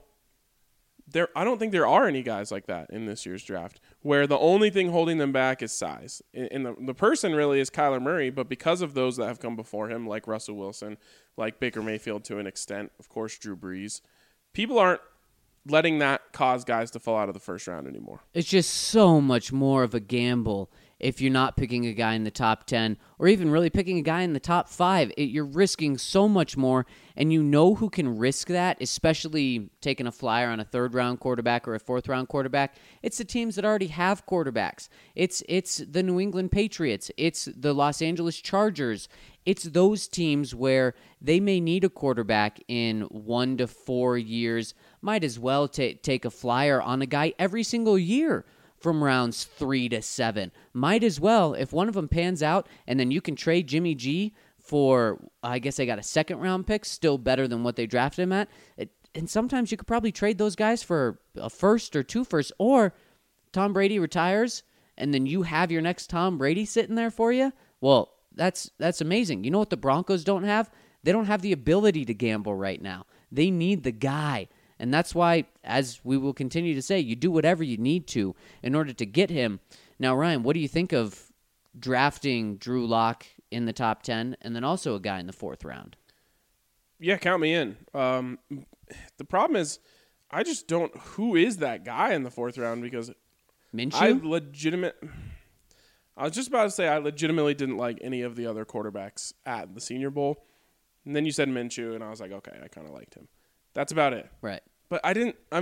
I don't think there are any guys like that in this year's draft, where the only thing holding them back is size. And the person really is Kyler Murray, but because of those that have come before him, like Russell Wilson, like Baker Mayfield to an extent, of course Drew Brees, people aren't letting that cause guys to fall out of the first round anymore. It's just so much more of a gamble if you're not picking a guy in the top 10 or even really picking a guy in the top 5. You're risking so much more, and you know who can risk that, especially taking a flyer on a third-round quarterback or a fourth-round quarterback. It's the teams that already have quarterbacks. It's the New England Patriots. It's the Los Angeles Chargers. It's those teams where they may need a quarterback in 1 to 4 years. Might as well take a flyer on a guy every single year from rounds 3 to 7. Might as well, if one of them pans out, and then you can trade Jimmy G for, I guess they got a second-round pick, still better than what they drafted him at. And sometimes you could probably trade those guys for a first or 2 firsts, or Tom Brady retires, and then you have your next Tom Brady sitting there for you. Well, that's amazing. You know what the Broncos don't have? They don't have the ability to gamble right now. They need the guy. And that's why, as we will continue to say, you do whatever you need to in order to get him. Now, Ryan, what do you think of drafting Drew Lock in the top 10 and then also a guy in the 4th round? Yeah, count me in. The problem is I just don't – who is that guy in the 4th round? Because Minshew? I was just about to say I legitimately didn't like any of the other quarterbacks at the Senior Bowl. And then you said Minshew, and I was like, okay, I kind of liked him. That's about it. Right. But I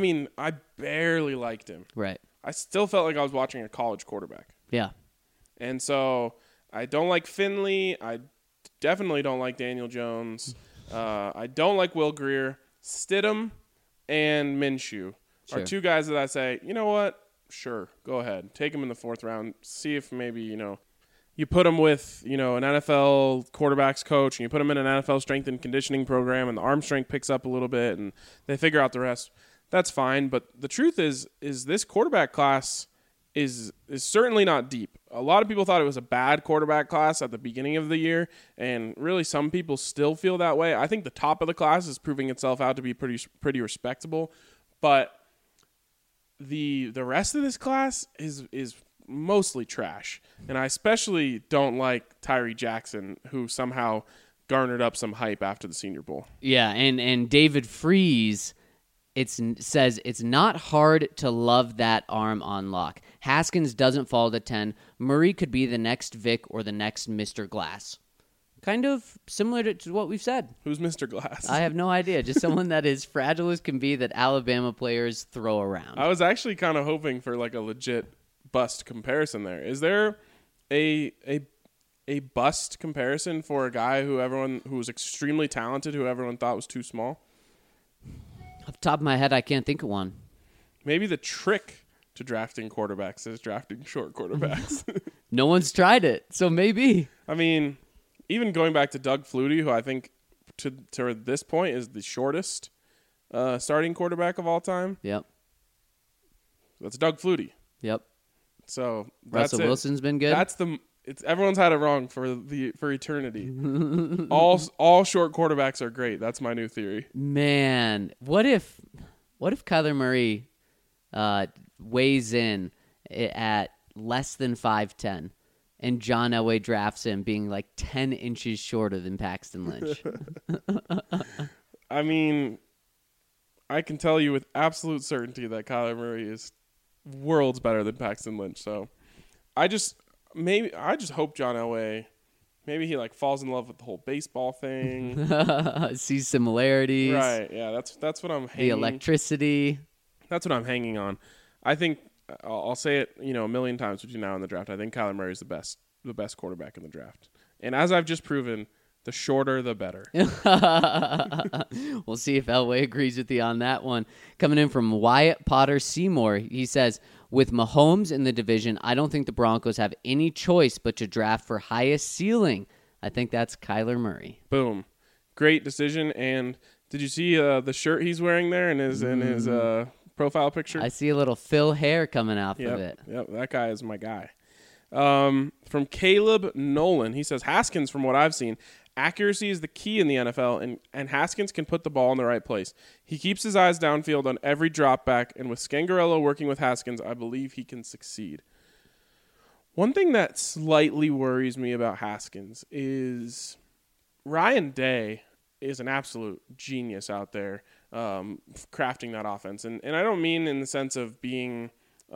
barely liked him. Right. I still felt like I was watching a college quarterback. Yeah. And so I don't like Finley. I definitely don't like Daniel Jones. I don't like Will Grier. Stidham and Minshew are 2 guys that I say, you know what? Sure, go ahead. Take him in the 4th round. See if maybe, you put him with, an NFL quarterbacks coach, and you put him in an NFL strength and conditioning program, and the arm strength picks up a little bit, and they figure out the rest. That's fine. But the truth is this quarterback class is certainly not deep. A lot of people thought it was a bad quarterback class at the beginning of the year, and really some people still feel that way. I think the top of the class is proving itself out to be pretty respectable, but the rest of this class is mostly trash. And I especially don't like Tyree Jackson, who somehow garnered up some hype after the Senior Bowl. Yeah, and David Freese says it's not hard to love that arm on lock. Haskins doesn't fall to 10. Murray could be the next Vic or the next Mr. Glass. Kind of similar to what we've said. Who's Mr. Glass? I have no idea. Just someone that is fragile as can be that Alabama players throw around. I was actually kind of hoping for like a legit bust comparison there. Is there a bust comparison for a guy who was extremely talented, who everyone thought was too small? Off the top of my head, I can't think of one. Maybe the trick to drafting quarterbacks is drafting short quarterbacks. No one's tried it, so maybe. I mean, even going back to Doug Flutie, who I think to this point is the shortest starting quarterback of all time. Yep. That's Doug Flutie. Yep. So that's Russell it. Wilson's been good. Everyone's had it wrong for eternity. all short quarterbacks are great. That's my new theory. Man, what if Kyler Murray weighs in at less than 5'10", and John Elway drafts him being like 10 inches shorter than Paxton Lynch? I mean, I can tell you with absolute certainty that Kyler Murray is worlds better than Paxton Lynch. So I just hope John Elway, maybe he like falls in love with the whole baseball thing. Sees similarities. Right. Yeah. That's what I'm hanging. The electricity. That's what I'm hanging on. I think I'll say it, a million times between now and the draft. I think Kyler Murray is the best quarterback in the draft. And as I've just proven, the shorter, the better. We'll see if Elway agrees with you on that one. Coming in from Wyatt Potter Seymour, he says, with Mahomes in the division, I don't think the Broncos have any choice but to draft for highest ceiling. I think that's Kyler Murray. Boom. Great decision. And did you see the shirt he's wearing there in his profile picture? I see a little Phil hair coming off of it. Yep, that guy is my guy. From Caleb Nolan, he says, Haskins, from what I've seen, accuracy is the key in the NFL, and Haskins can put the ball in the right place. He keeps his eyes downfield on every drop back, and with Scangarello working with Haskins, I believe he can succeed. One thing that slightly worries me about Haskins is Ryan Day is an absolute genius out there crafting that offense. And I don't mean in the sense of being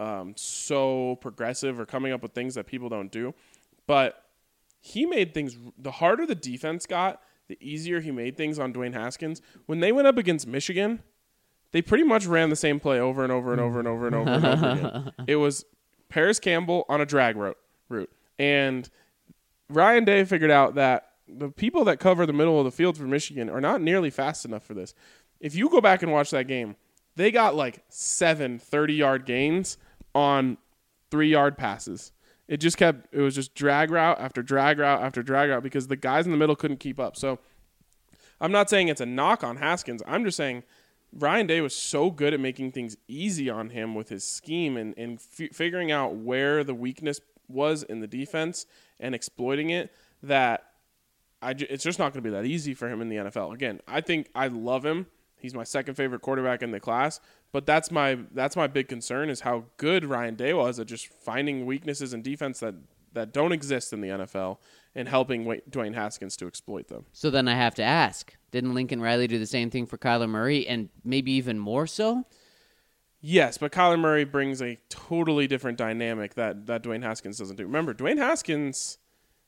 so progressive or coming up with things that people don't do, but he made things, the harder the defense got, the easier he made things on Dwayne Haskins. When they went up against Michigan, they pretty much ran the same play over and over and over and over and over and over again. It was Paris Campbell on a drag route. And Ryan Day figured out that the people that cover the middle of the field for Michigan are not nearly fast enough for this. If you go back and watch that game, they got like 7 30-yard gains on 3-yard passes. It was just drag route after drag route after drag route because the guys in the middle couldn't keep up. So I'm not saying it's a knock on Haskins. I'm just saying Ryan Day was so good at making things easy on him with his scheme and figuring out where the weakness was in the defense and exploiting it that it's just not going to be that easy for him in the NFL. Again, I think I love him. He's my second favorite quarterback in the class, but that's my big concern is how good Ryan Day was at just finding weaknesses in defense that don't exist in the NFL and helping Dwayne Haskins to exploit them. So then I have to ask, didn't Lincoln Riley do the same thing for Kyler Murray and maybe even more so? Yes, but Kyler Murray brings a totally different dynamic that Dwayne Haskins doesn't do. Remember, Dwayne Haskins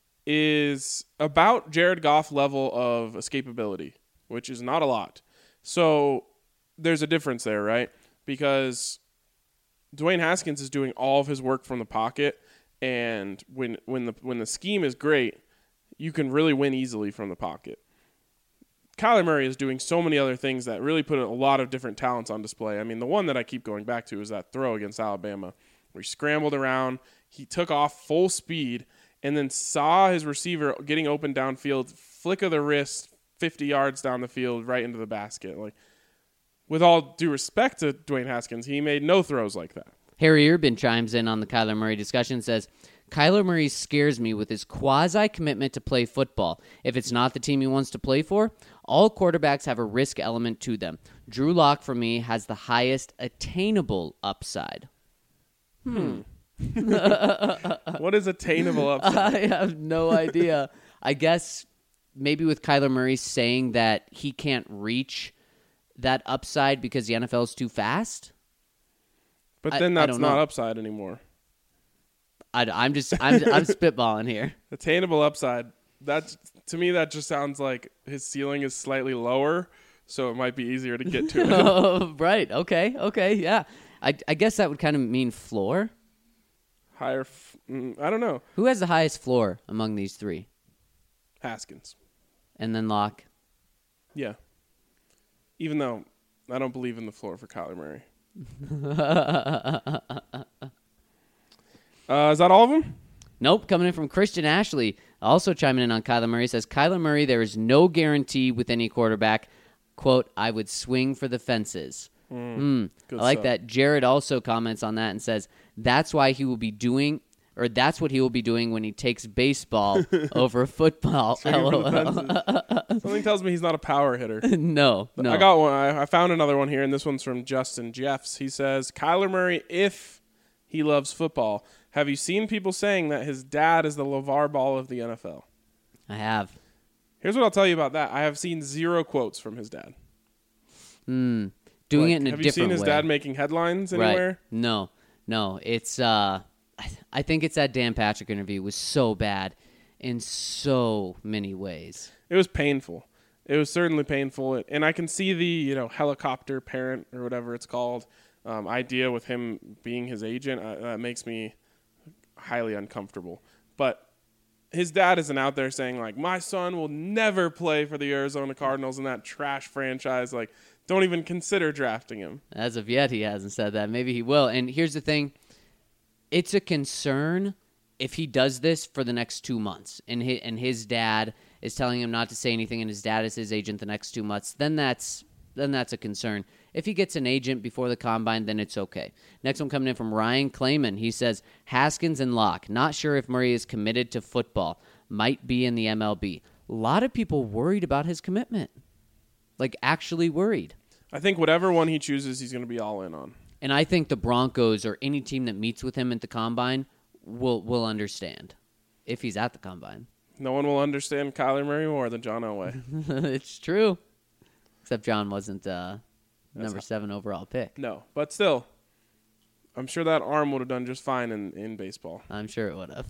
is about Jared Goff level of escapability, which is not a lot. So there's a difference there, right? Because Dwayne Haskins is doing all of his work from the pocket, and when the scheme is great, you can really win easily from the pocket. Kyler Murray is doing so many other things that really put a lot of different talents on display. I mean, the one that I keep going back to is that throw against Alabama, where he scrambled around, he took off full speed, and then saw his receiver getting open downfield, flick of the wrist, 50 yards down the field, right into the basket. Like, with all due respect to Dwayne Haskins, he made no throws like that. Harry Urban chimes in on the Kyler Murray discussion, says, Kyler Murray scares me with his quasi-commitment to play football. If it's not the team he wants to play for, all quarterbacks have a risk element to them. Drew Lock, for me, has the highest attainable upside. What is attainable upside? I have no idea. I guess maybe with Kyler Murray saying that he can't reach that upside because the NFL is too fast? But I then that's don't not know. upside anymore. I'm spitballing here. Attainable upside. That's to me that just sounds like his ceiling is slightly lower, so it might be easier to get to it. Oh, right. Okay. Yeah. I guess that would kind of mean floor. Higher. I don't know. Who has the highest floor among these three? Haskins. And then Locke. Yeah. Even though I don't believe in the floor for Kyler Murray. Is that all of them? Nope. Coming in from Christian Ashley, also chiming in on Kyler Murray, says, Kyler Murray, there is no guarantee with any quarterback. Quote, I would swing for the fences. I like stuff. that. Jared also comments on that and says, that's what he will be doing when he takes baseball over football. Swinging for the LOL. fences. Something tells me he's not a power hitter. No. I got one. I found another one here, and this one's from Justin Jeffs. He says, Kyler Murray, if he loves football, have you seen people saying that his dad is the LeVar Ball of the NFL? I have. Here's what I'll tell you about that. I have seen 0 quotes from his dad. Doing it in a different way. Have you seen his dad making headlines anywhere? Right. No. It's I think it's that Dan Patrick interview was so bad in so many ways. It was painful. It was certainly painful, and I can see the helicopter parent or whatever it's called idea with him being his agent. That makes me highly uncomfortable. But his dad isn't out there saying like, my son will never play for the Arizona Cardinals in that trash franchise. Like, don't even consider drafting him. As of yet, he hasn't said that. Maybe he will. And here's the thing. It's a concern if he does this for the next 2 months and his dad is telling him not to say anything and his dad is his agent the next 2 months, then that's a concern. If he gets an agent before the combine, then it's okay. Next one coming in from Ryan Clayman. He says, Haskins and Locke. Not sure if Murray is committed to football. Might be in the MLB. A lot of people worried about his commitment. Like, actually worried. I think whatever one he chooses, he's going to be all in on. And I think the Broncos or any team that meets with him at the combine will understand if he's at the combine. No one will understand Kyler Murray more than John Elway. It's true. Except John wasn't number 7 overall pick. No, but still, I'm sure that arm would have done just fine in baseball. I'm sure it would have.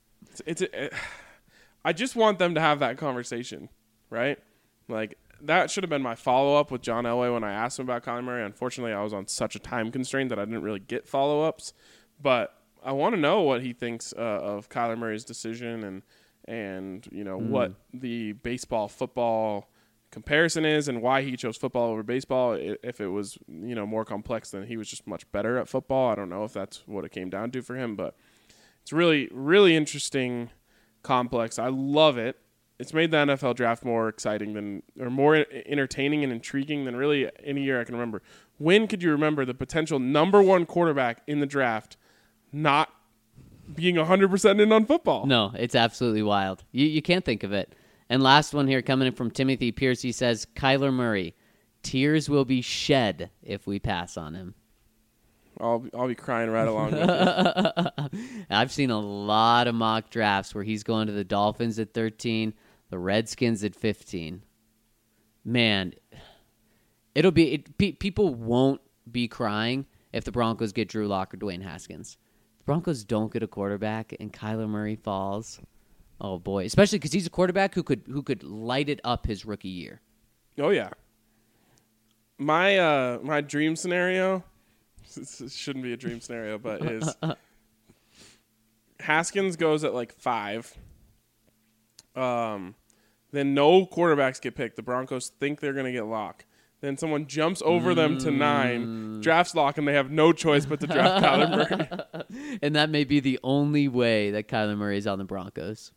I just want them to have that conversation, right? Like, that should have been my follow-up with John Elway when I asked him about Kyler Murray. Unfortunately, I was on such a time constraint that I didn't really get follow-ups. But I want to know what he thinks of Kyler Murray's decision and what the baseball-football comparison is and why he chose football over baseball. If it was more complex than he was just much better at football, I don't know if that's what it came down to for him. But it's really, really interesting, complex. I love it. It's made the NFL draft more exciting more entertaining and intriguing than really any year I can remember. When could you remember the potential number 1 quarterback in the draft not being 100% in on football? No, it's absolutely wild. You can't think of it. And last one here coming in from Timothy Pierce. He says, Kyler Murray, tears will be shed if we pass on him. I'll be crying right along with you. I've seen a lot of mock drafts where he's going to the Dolphins at 13, the Redskins at 15. Man, people won't be crying if the Broncos get Drew Lock or Dwayne Haskins. The Broncos don't get a quarterback and Kyler Murray falls. Oh boy, especially because he's a quarterback who could light it up his rookie year. Oh yeah. My dream scenario, this shouldn't be a dream scenario, but is Haskins goes at like 5. Then no quarterbacks get picked. The Broncos think they're going to get Lock. Then someone jumps over them to 9, drafts Lock, and they have no choice but to draft Kyler Murray. And that may be the only way that Kyler Murray is on the Broncos.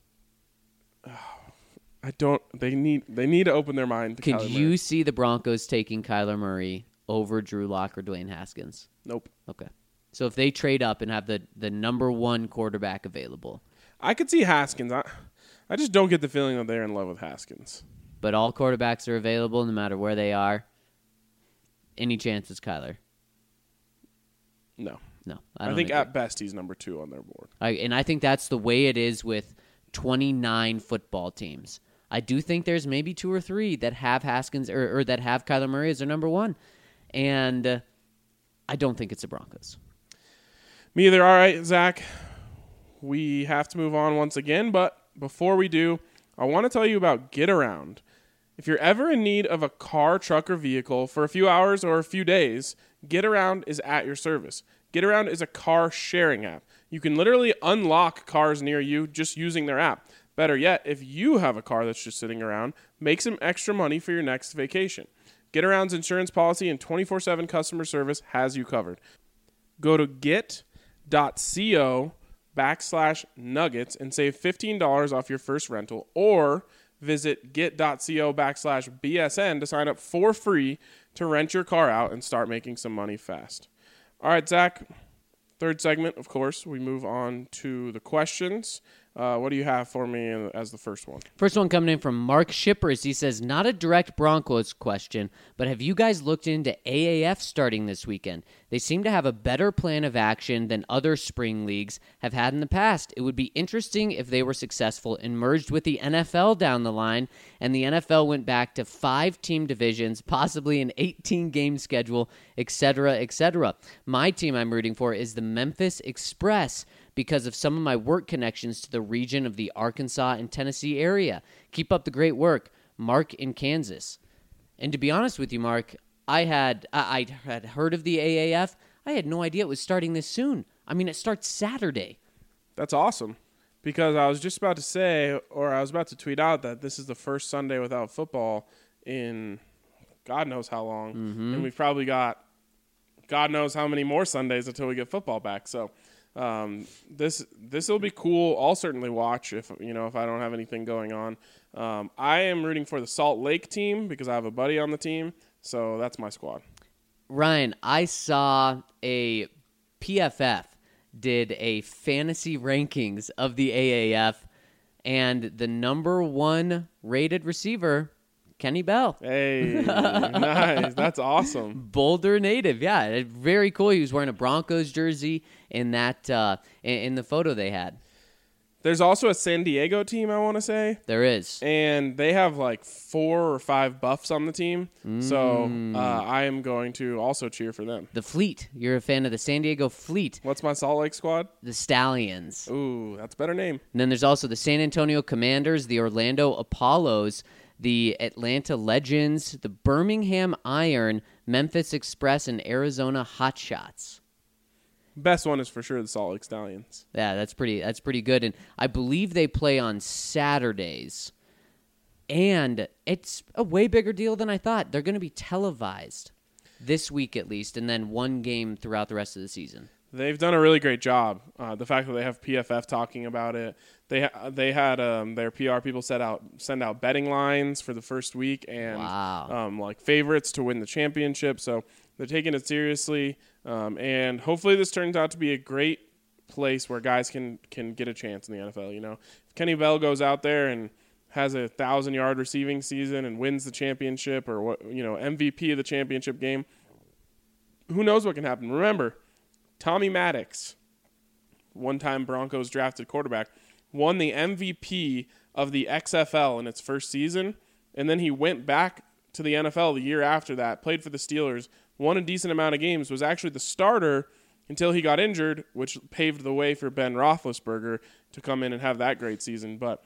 They need to open their mind to Could Kyler you Murray. see the Broncos taking Kyler Murray over Drew Lock or Dwayne Haskins? Nope. Okay. So if they trade up and have the number 1 quarterback available. I could see Haskins. I just don't get the feeling that they're in love with Haskins. But all quarterbacks are available no matter where they are. Any chance it's Kyler? No. No. I think at best he's number 2 on their board. And I think that's the way it is with 29 football teams. I do think there's maybe 2 or 3 that have Haskins or that have Kyler Murray as their number 1. And I don't think it's the Broncos. Me either. All right, Zach. We have to move on once again, but before we do, I want to tell you about Get Around. If you're ever in need of a car, truck, or vehicle for a few hours or a few days, Get Around is at your service. Get Around is a car sharing app. You can literally unlock cars near you just using their app. Better yet, if you have a car that's just sitting around, make some extra money for your next vacation. Get Around's insurance policy and 24/7 customer service has you covered. Go to get.co/nuggets and save $15 off your first rental, or visit get.co/BSN to sign up for free to rent your car out and start making some money fast. All right, Zach, third segment, of course, we move on to the questions. What do you have for me as the first one? First one coming in from Mark Shippers. He says, not a direct Broncos question, but have you guys looked into AAF starting this weekend? They seem to have a better plan of action than other spring leagues have had in the past. It would be interesting if they were successful and merged with the NFL down the line, and the NFL went back to 5-team divisions, possibly an 18-game schedule, etc., etc. My team I'm rooting for is the Memphis Express, because of some of my work connections to the region of the Arkansas and Tennessee area. Keep up the great work, Mark in Kansas. And to be honest with you, Mark, I had heard of the AAF. I had no idea it was starting this soon. I mean, it starts Saturday. That's awesome, because I was just about to say, or I was about to tweet out that this is the first Sunday without football in God knows how long, and we've probably got God knows how many more Sundays until we get football back. So this will be cool. I'll certainly watch if I don't have anything going on. I am rooting for the Salt Lake team because I have a buddy on the team, so that's my squad. Ryan, I saw a PFF did a fantasy rankings of the AAF, and the number 1 rated receiver, Kenny Bell. Hey, nice. That's awesome. Boulder native, yeah. Very cool. He was wearing a Broncos jersey in that in the photo they had. There's also a San Diego team, I want to say. There is. And they have like 4 or 5 buffs on the team. So I am going to also cheer for them. The Fleet. You're a fan of the San Diego Fleet. What's my Salt Lake squad? The Stallions. Ooh, that's a better name. And then there's also the San Antonio Commanders, the Orlando Apollos, the Atlanta Legends, the Birmingham Iron, Memphis Express, and Arizona Hotshots. Best one is for sure the Salt Lake Stallions. Yeah, that's pretty good. And I believe they play on Saturdays. And it's a way bigger deal than I thought. They're going to be televised this week at least, and then one game throughout the rest of the season. They've done a really great job. The fact that they have PFF talking about it, they had their PR people send out betting lines for the first week and like favorites to win the championship. So they're taking it seriously, and hopefully this turns out to be a great place where guys can get a chance in the NFL. If Kenny Bell goes out there and has a 1,000-yard receiving season and wins the championship, or MVP of the championship game, who knows what can happen? Remember, Tommy Maddox, one-time Broncos drafted quarterback, won the MVP of the XFL in its first season, and then he went back to the NFL the year after that, played for the Steelers, won a decent amount of games, was actually the starter until he got injured, which paved the way for Ben Roethlisberger to come in and have that great season. But,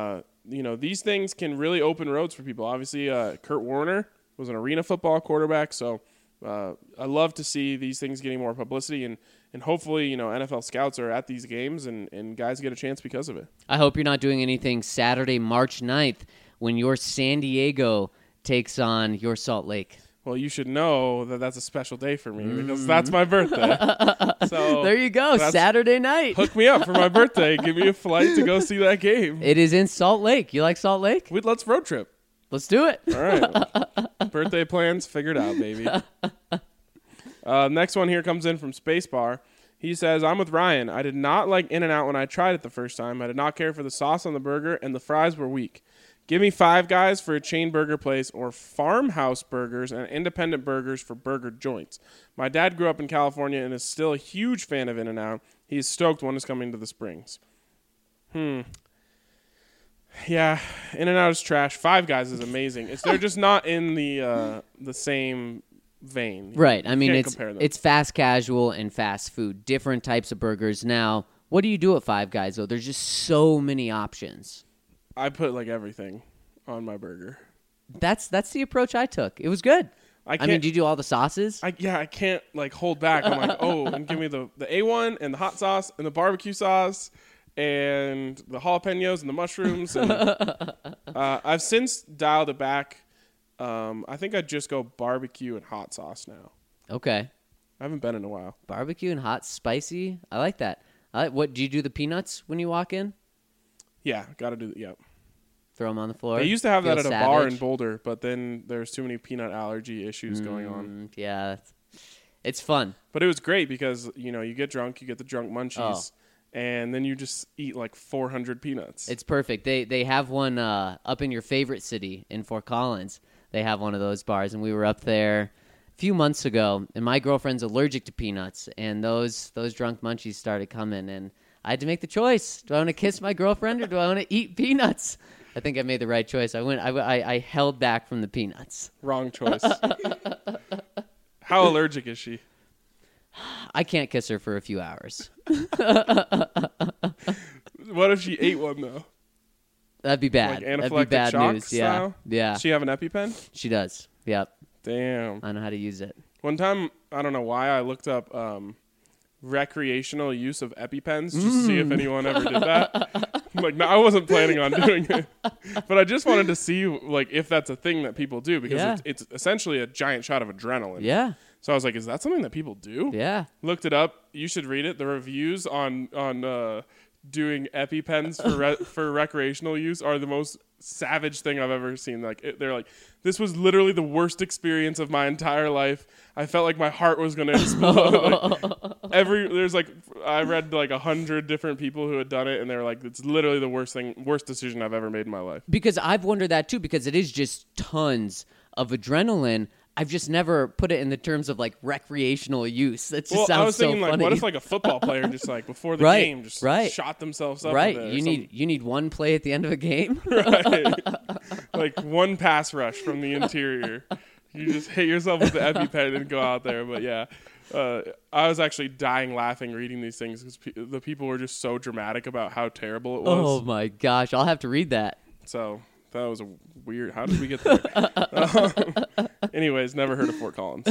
these things can really open roads for people. Obviously, Kurt Warner was an arena football quarterback, so I love to see these things getting more publicity, and hopefully, NFL scouts are at these games and guys get a chance because of it. I hope you're not doing anything Saturday, March 9th, when your San Diego takes on your Salt Lake. Well, you should know that that's a special day for me because that's my birthday. So there you go, Saturday night. Hook me up for my birthday. Give me a flight to go see that game. It is in Salt Lake. You like Salt Lake? Let's road trip. Let's do it. All right. Birthday plans figured out, baby. Next one here comes in from Spacebar. He says, I'm with Ryan. I did not like In-N-Out when I tried it the first time. I did not care for the sauce on the burger, and the fries were weak. Give me Five Guys for a chain burger place, or Farmhouse Burgers and independent burgers for burger joints. My dad grew up in California and is still a huge fan of In-N-Out. He is stoked one is coming to the Springs. Yeah, In-N-Out is trash. Five Guys is amazing. They're just not in the same vein. Right. I mean, Can't compare them. it's fast casual and fast food, different types of burgers. Now, what do you do at Five Guys, though? There's just so many options. I put like everything on my burger. That's the approach I took. It was good. I mean, do you do all the sauces? I can't like hold back. I'm like, oh, and give me the A1 and the hot sauce and the barbecue sauce and the jalapenos and the mushrooms. And, I've since dialed it back. I think I just go barbecue and hot sauce now. Okay. I haven't been in a while. Barbecue and hot spicy. I like that. What do you do? The peanuts when you walk in? Yeah, got to do. Yep. Throw them on the floor. They used to have Feel that at savage. a bar in Boulder, but then there's too many peanut allergy issues going on. Yeah, it's fun. But it was great because you get drunk, you get the drunk munchies, and then you just eat like 400 peanuts. It's perfect. They have one up in your favorite city in Fort Collins. They have one of those bars, and we were up there a few months ago, and my girlfriend's allergic to peanuts, and those drunk munchies started coming, and I had to make the choice. Do I want to kiss my girlfriend or do I want to eat peanuts? I think I made the right choice. I held back from the peanuts. Wrong choice. How allergic is she? I can't kiss her for a few hours. What if she ate one though? That'd be bad. Like That'd be anaphylactic bad shock news. style? Yeah. Does she have an EpiPen? She does. Yep. Damn. I know how to use it. One time, I don't know why, I looked up recreational use of EpiPens just to see if anyone ever did that. Like, no, I wasn't planning on doing it, but I just wanted to see like if that's a thing that people do because it's essentially a giant shot of adrenaline. Yeah. So I was like, is that something that people do? Yeah. Looked it up. You should read it. The reviews on doing EpiPens for recreational use are the most savage thing I've ever seen. Like they're like, this was literally the worst experience of my entire life. I felt like my heart was going to explode. I read like 100 different people who had done it, and they were like, it's literally the worst decision I've ever made in my life. Because I've wondered that too, because it is just tons of adrenaline. I've just never put it in the terms of like recreational use. That just sounds I was thinking so like, funny. what if like a football player just like before the Right, game just right. shot themselves up? Right. with it or You need one play at the end of a game. right. Like one pass rush from the interior. You just hit yourself with the EpiPen and go out there. But yeah, I was actually dying laughing reading these things because the people were just so dramatic about how terrible it was. Oh my gosh, I'll have to read that. So that was a weird. How did we get there? Anyways, never heard of Fort Collins.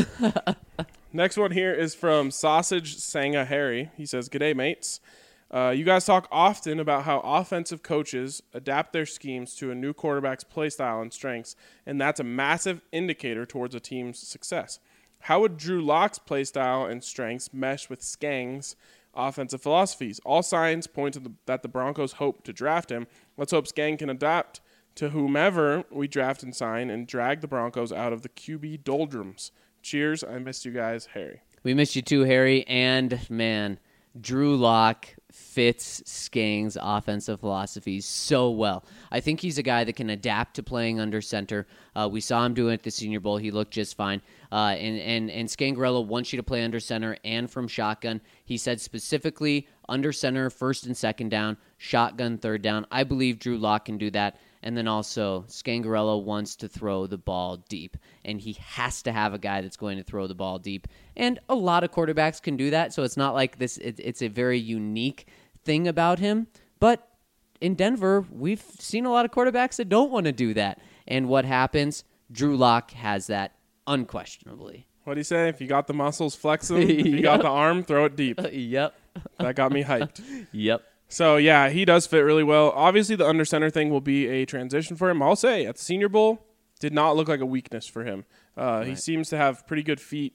Next one here is from Sausage Sanga Harry. He says, "G'day, mates. You guys talk often about how offensive coaches adapt their schemes to a new quarterback's play style and strengths, and that's a massive indicator towards a team's success. How would Drew Lock's play style and strengths mesh with Skang's offensive philosophies? All signs point to that the Broncos hope to draft him. Let's hope Skang can adapt to whomever we draft and sign and drag the Broncos out of the QB doldrums. Cheers. I missed you guys, Harry." We missed you too, Harry. And man, Drew Lock fits Skang's offensive philosophies so well. I think he's a guy that can adapt to playing under center. We saw him do it at the Senior Bowl. He looked just fine. And Scangarello wants you to play under center and from shotgun. He said specifically under center, first and second down, shotgun, third down. I believe Drew Lock can do that. And then also, Scangarello wants to throw the ball deep, and he has to have a guy that's going to throw the ball deep. And a lot of quarterbacks can do that, so it's not like this. It's a very unique thing about him. But in Denver, we've seen a lot of quarterbacks that don't want to do that. And what happens? Drew Lock has that unquestionably. What do you say? If you got the muscles, flex them. If you got the arm, throw it deep. Yep. That got me hyped. Yep. So, yeah, he does fit really well. Obviously, the under center thing will be a transition for him. I'll say, at the Senior Bowl, did not look like a weakness for him. He seems to have pretty good feet.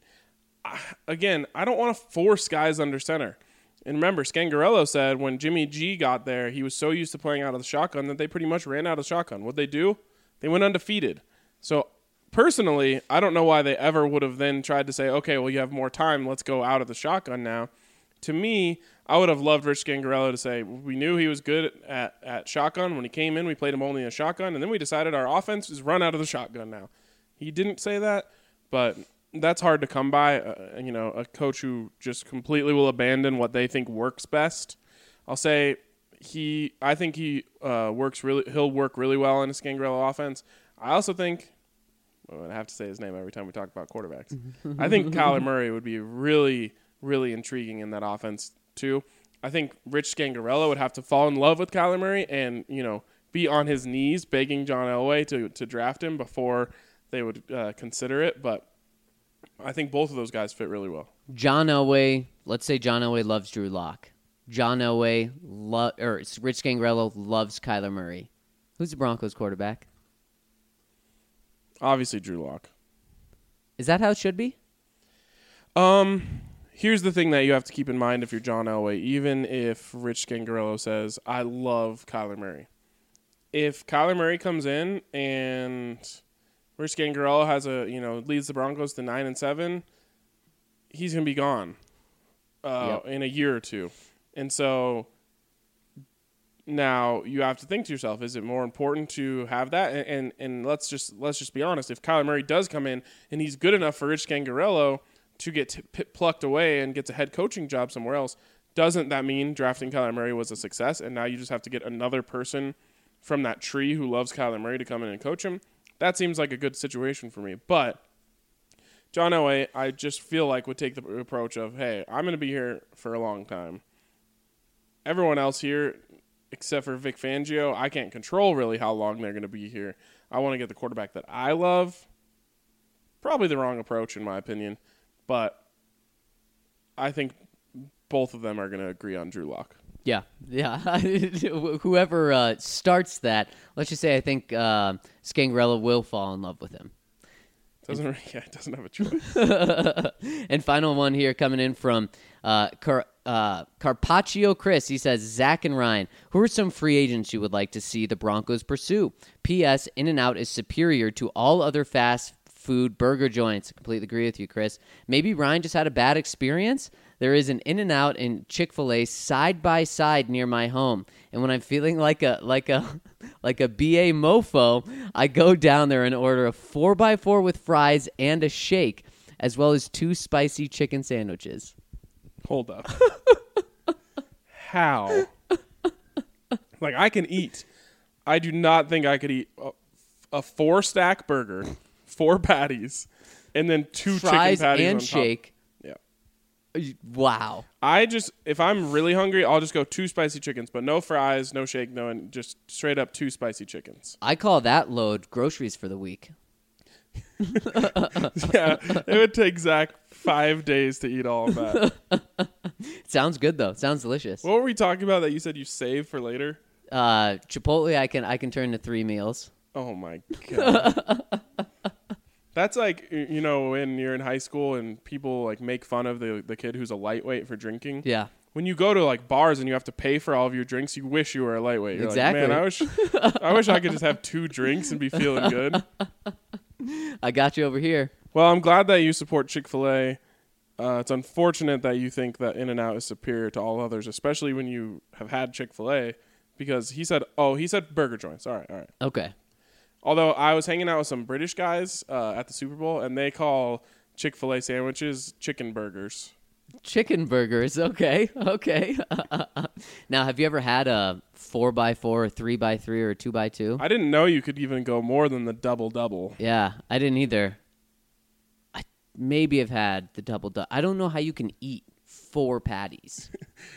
Again, I don't want to force guys under center. And remember, Scangarello said when Jimmy G got there, he was so used to playing out of the shotgun that they pretty much ran out of shotgun. What'd they do? They went undefeated. So, personally, I don't know why they ever would have then tried to say, okay, well, you have more time. Let's go out of the shotgun now. To me, I would have loved Rich Scangarello to say, we knew he was good at shotgun. When he came in, we played him only in a shotgun, and then we decided our offense is run out of the shotgun now. He didn't say that, but that's hard to come by. A coach who just completely will abandon what they think works best. I'll say I think he'll work really well in a Scangarello offense. I also think, I have to say his name every time we talk about quarterbacks. I think Kyler Murray would be really, really intriguing in that offense too. I think Rich Scangarello would have to fall in love with Kyler Murray and, be on his knees begging John Elway to draft him before they would consider it. But I think both of those guys fit really well. John Elway, let's say John Elway loves Drew Lock. John Elway or Rich Scangarello loves Kyler Murray. Who's the Broncos quarterback? Obviously Drew Lock. Is that how it should be? Here's the thing that you have to keep in mind if you're John Elway, even if Rich Scangarello says, I love Kyler Murray. If Kyler Murray comes in and Rich Scangarello has leads the Broncos to 9-7, he's going to be gone in a year or two. And so now you have to think to yourself, is it more important to have that? And let's just be honest. If Kyler Murray does come in and he's good enough for Rich Scangarello to get plucked away and gets a head coaching job somewhere else, doesn't that mean drafting Kyler Murray was a success? And now you just have to get another person from that tree who loves Kyler Murray to come in and coach him? That seems like a good situation for me. But John Elway, I just feel like would take the approach of, hey, I'm going to be here for a long time. Everyone else here, except for Vic Fangio, I can't control really how long they're going to be here. I want to get the quarterback that I love. Probably the wrong approach, in my opinion. But I think both of them are going to agree on Drew Lock. Yeah. Whoever starts that, let's just say I think Scangarello will fall in love with him. It doesn't have a choice. And final one here coming in from Carpaccio Chris. He says, Zach and Ryan, who are some free agents you would like to see the Broncos pursue? P.S. In-N-Out is superior to all other fast food burger joints. I completely agree with you, Chris. Maybe Ryan just had a bad experience. There is an In-N-Out and Chick-fil-A side by side near my home, and when I'm feeling like a BA mofo, I go down there and order a 4x4 with fries and a shake, as well as 2 spicy chicken sandwiches. Hold up. How? Like, I can eat. I do not think I could eat a 4-stack burger, 4 patties, and then 2 fries chicken patties and on top. shake. Wow. If I'm really hungry, I'll just go 2 spicy chickens, but no fries, no shake, and just straight up 2 spicy chickens. I call that load groceries for the week. Yeah, it would take Zach 5 days to eat all of that. Sounds good though. Sounds delicious. What were we talking about that you said you save for later? Chipotle, I can turn to 3 meals. Oh my god. That's like, when you're in high school and people like make fun of the kid who's a lightweight for drinking. Yeah. When you go to like bars and you have to pay for all of your drinks, you wish you were a lightweight. You're exactly. Like, man, I wish I could just have 2 drinks and be feeling good. I got you over here. Well, I'm glad that you support Chick-fil-A. It's unfortunate that you think that In-N-Out is superior to all others, especially when you have had Chick-fil-A, because he said burger joints. All right. Okay. Although I was hanging out with some British guys at the Super Bowl, and they call Chick-fil-A sandwiches chicken burgers. Chicken burgers. Okay. Now, have you ever had a 4x4 or 3x3 or 2x2? I didn't know you could even go more than the double-double. Yeah, I didn't either. I maybe have had the double-double. I don't know how you can eat 4 patties.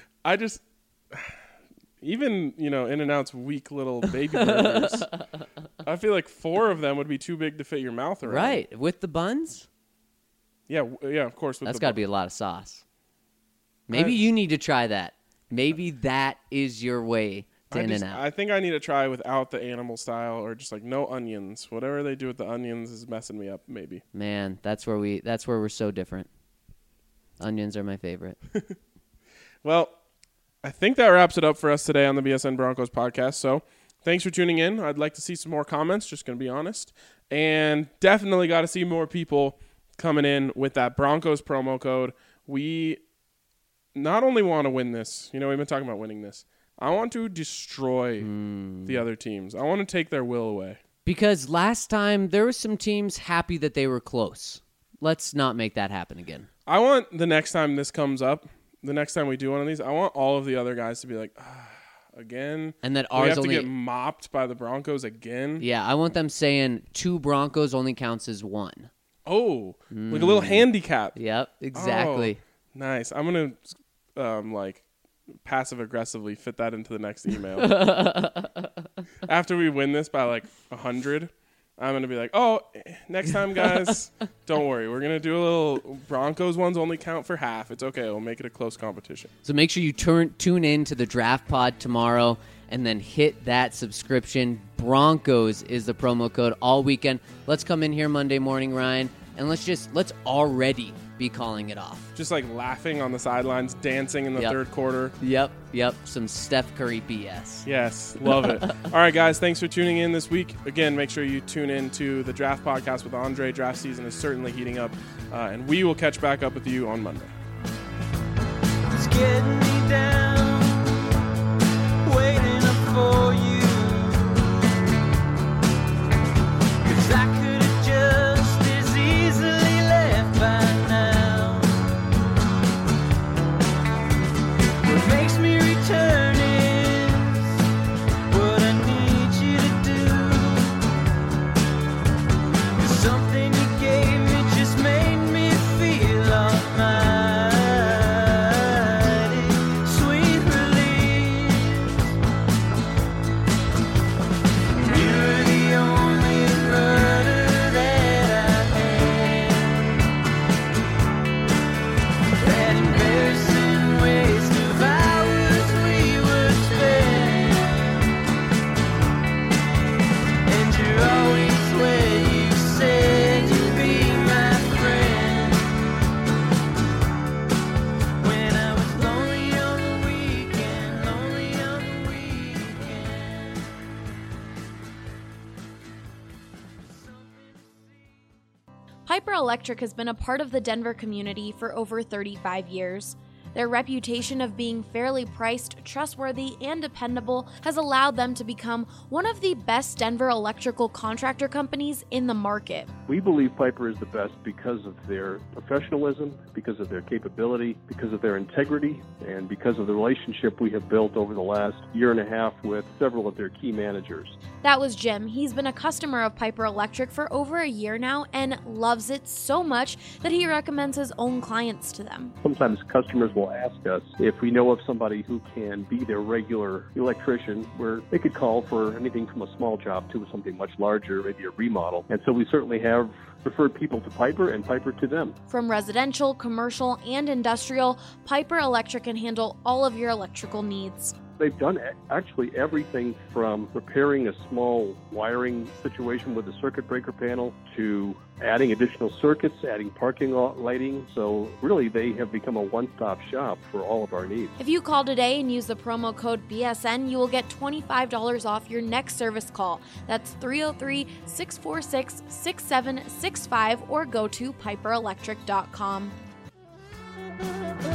Even, In-N-Out's weak little baby burgers, I feel like 4 of them would be too big to fit your mouth around. Right. With the buns? Yeah, of course. That's got to be a lot of sauce. Maybe you need to try that. Maybe that is your way to In-N-Out. I think I need to try without the animal style or just like no onions. Whatever they do with the onions is messing me up, maybe. Man, that's where we're so different. Onions are my favorite. Well, I think that wraps it up for us today on the BSN Broncos podcast. So thanks for tuning in. I'd like to see some more comments, just going to be honest. And definitely got to see more people coming in with that Broncos promo code. We not only want to win this, we've been talking about winning this. I want to destroy the other teams. I want to take their will away. Because last time there were some teams happy that they were close. Let's not make that happen again. I want the next time this comes up, the next time we do one of these, I want all of the other guys to be like, again. And that we ours have only to get mopped by the Broncos again. Yeah, I want them saying 2 Broncos only counts as 1. Oh, like a little handicap. Yep, exactly. Oh, nice. I'm gonna like passive aggressively fit that into the next email. After we win this by like 100, I'm gonna be like, oh, next time, guys, don't worry. We're gonna do a little Broncos ones only count for half. It's okay. We'll make it a close competition. So make sure you tune in to the Draft Pod tomorrow and then hit that subscription. Broncos is the promo code all weekend. Let's come in here Monday morning, Ryan, and let's already be calling it off. Just like laughing on the sidelines, dancing in the third quarter. Yep. Some Steph Curry BS. Yes, love it. All right, guys, thanks for tuning in this week. Again, make sure you tune in to the Draft Podcast with Andre. Draft season is certainly heating up, and we will catch back up with you on Monday. It's getting me down, waiting up for you. 'Cause I could have just as easily left by now. What makes me return is what I need you to do. 'Cause something you gave me just made me feel almighty. Sweet relief. You're the only murder that I had. That embarrassing waste of hours we would spend. And you're always where you said you'd be my friend. When I was lonely on the weekend, lonely on the weekend. Piper Electric has been a part of the Denver community for over 35 years. Their reputation of being fairly priced, trustworthy, and dependable has allowed them to become one of the best Denver electrical contractor companies in the market. We believe Piper is the best because of their professionalism, because of their capability, because of their integrity, and because of the relationship we have built over the last year and a half with several of their key managers. That was Jim. He's been a customer of Piper Electric for over a year now and loves it so much that he recommends his own clients to them. Sometimes customers will ask us if we know of somebody who can be their regular electrician, where they could call for anything from a small job to something much larger, maybe a remodel. And so we certainly have referred people to Piper and Piper to them. From residential, commercial, and industrial, Piper Electric can handle all of your electrical needs. They've done actually everything from repairing a small wiring situation with a circuit breaker panel to adding additional circuits, adding parking lot lighting. So really, they have become a one-stop shop for all of our needs. If you call today and use the promo code BSN, you will get $25 off your next service call. That's 303-646-6765 or go to piperelectric.com.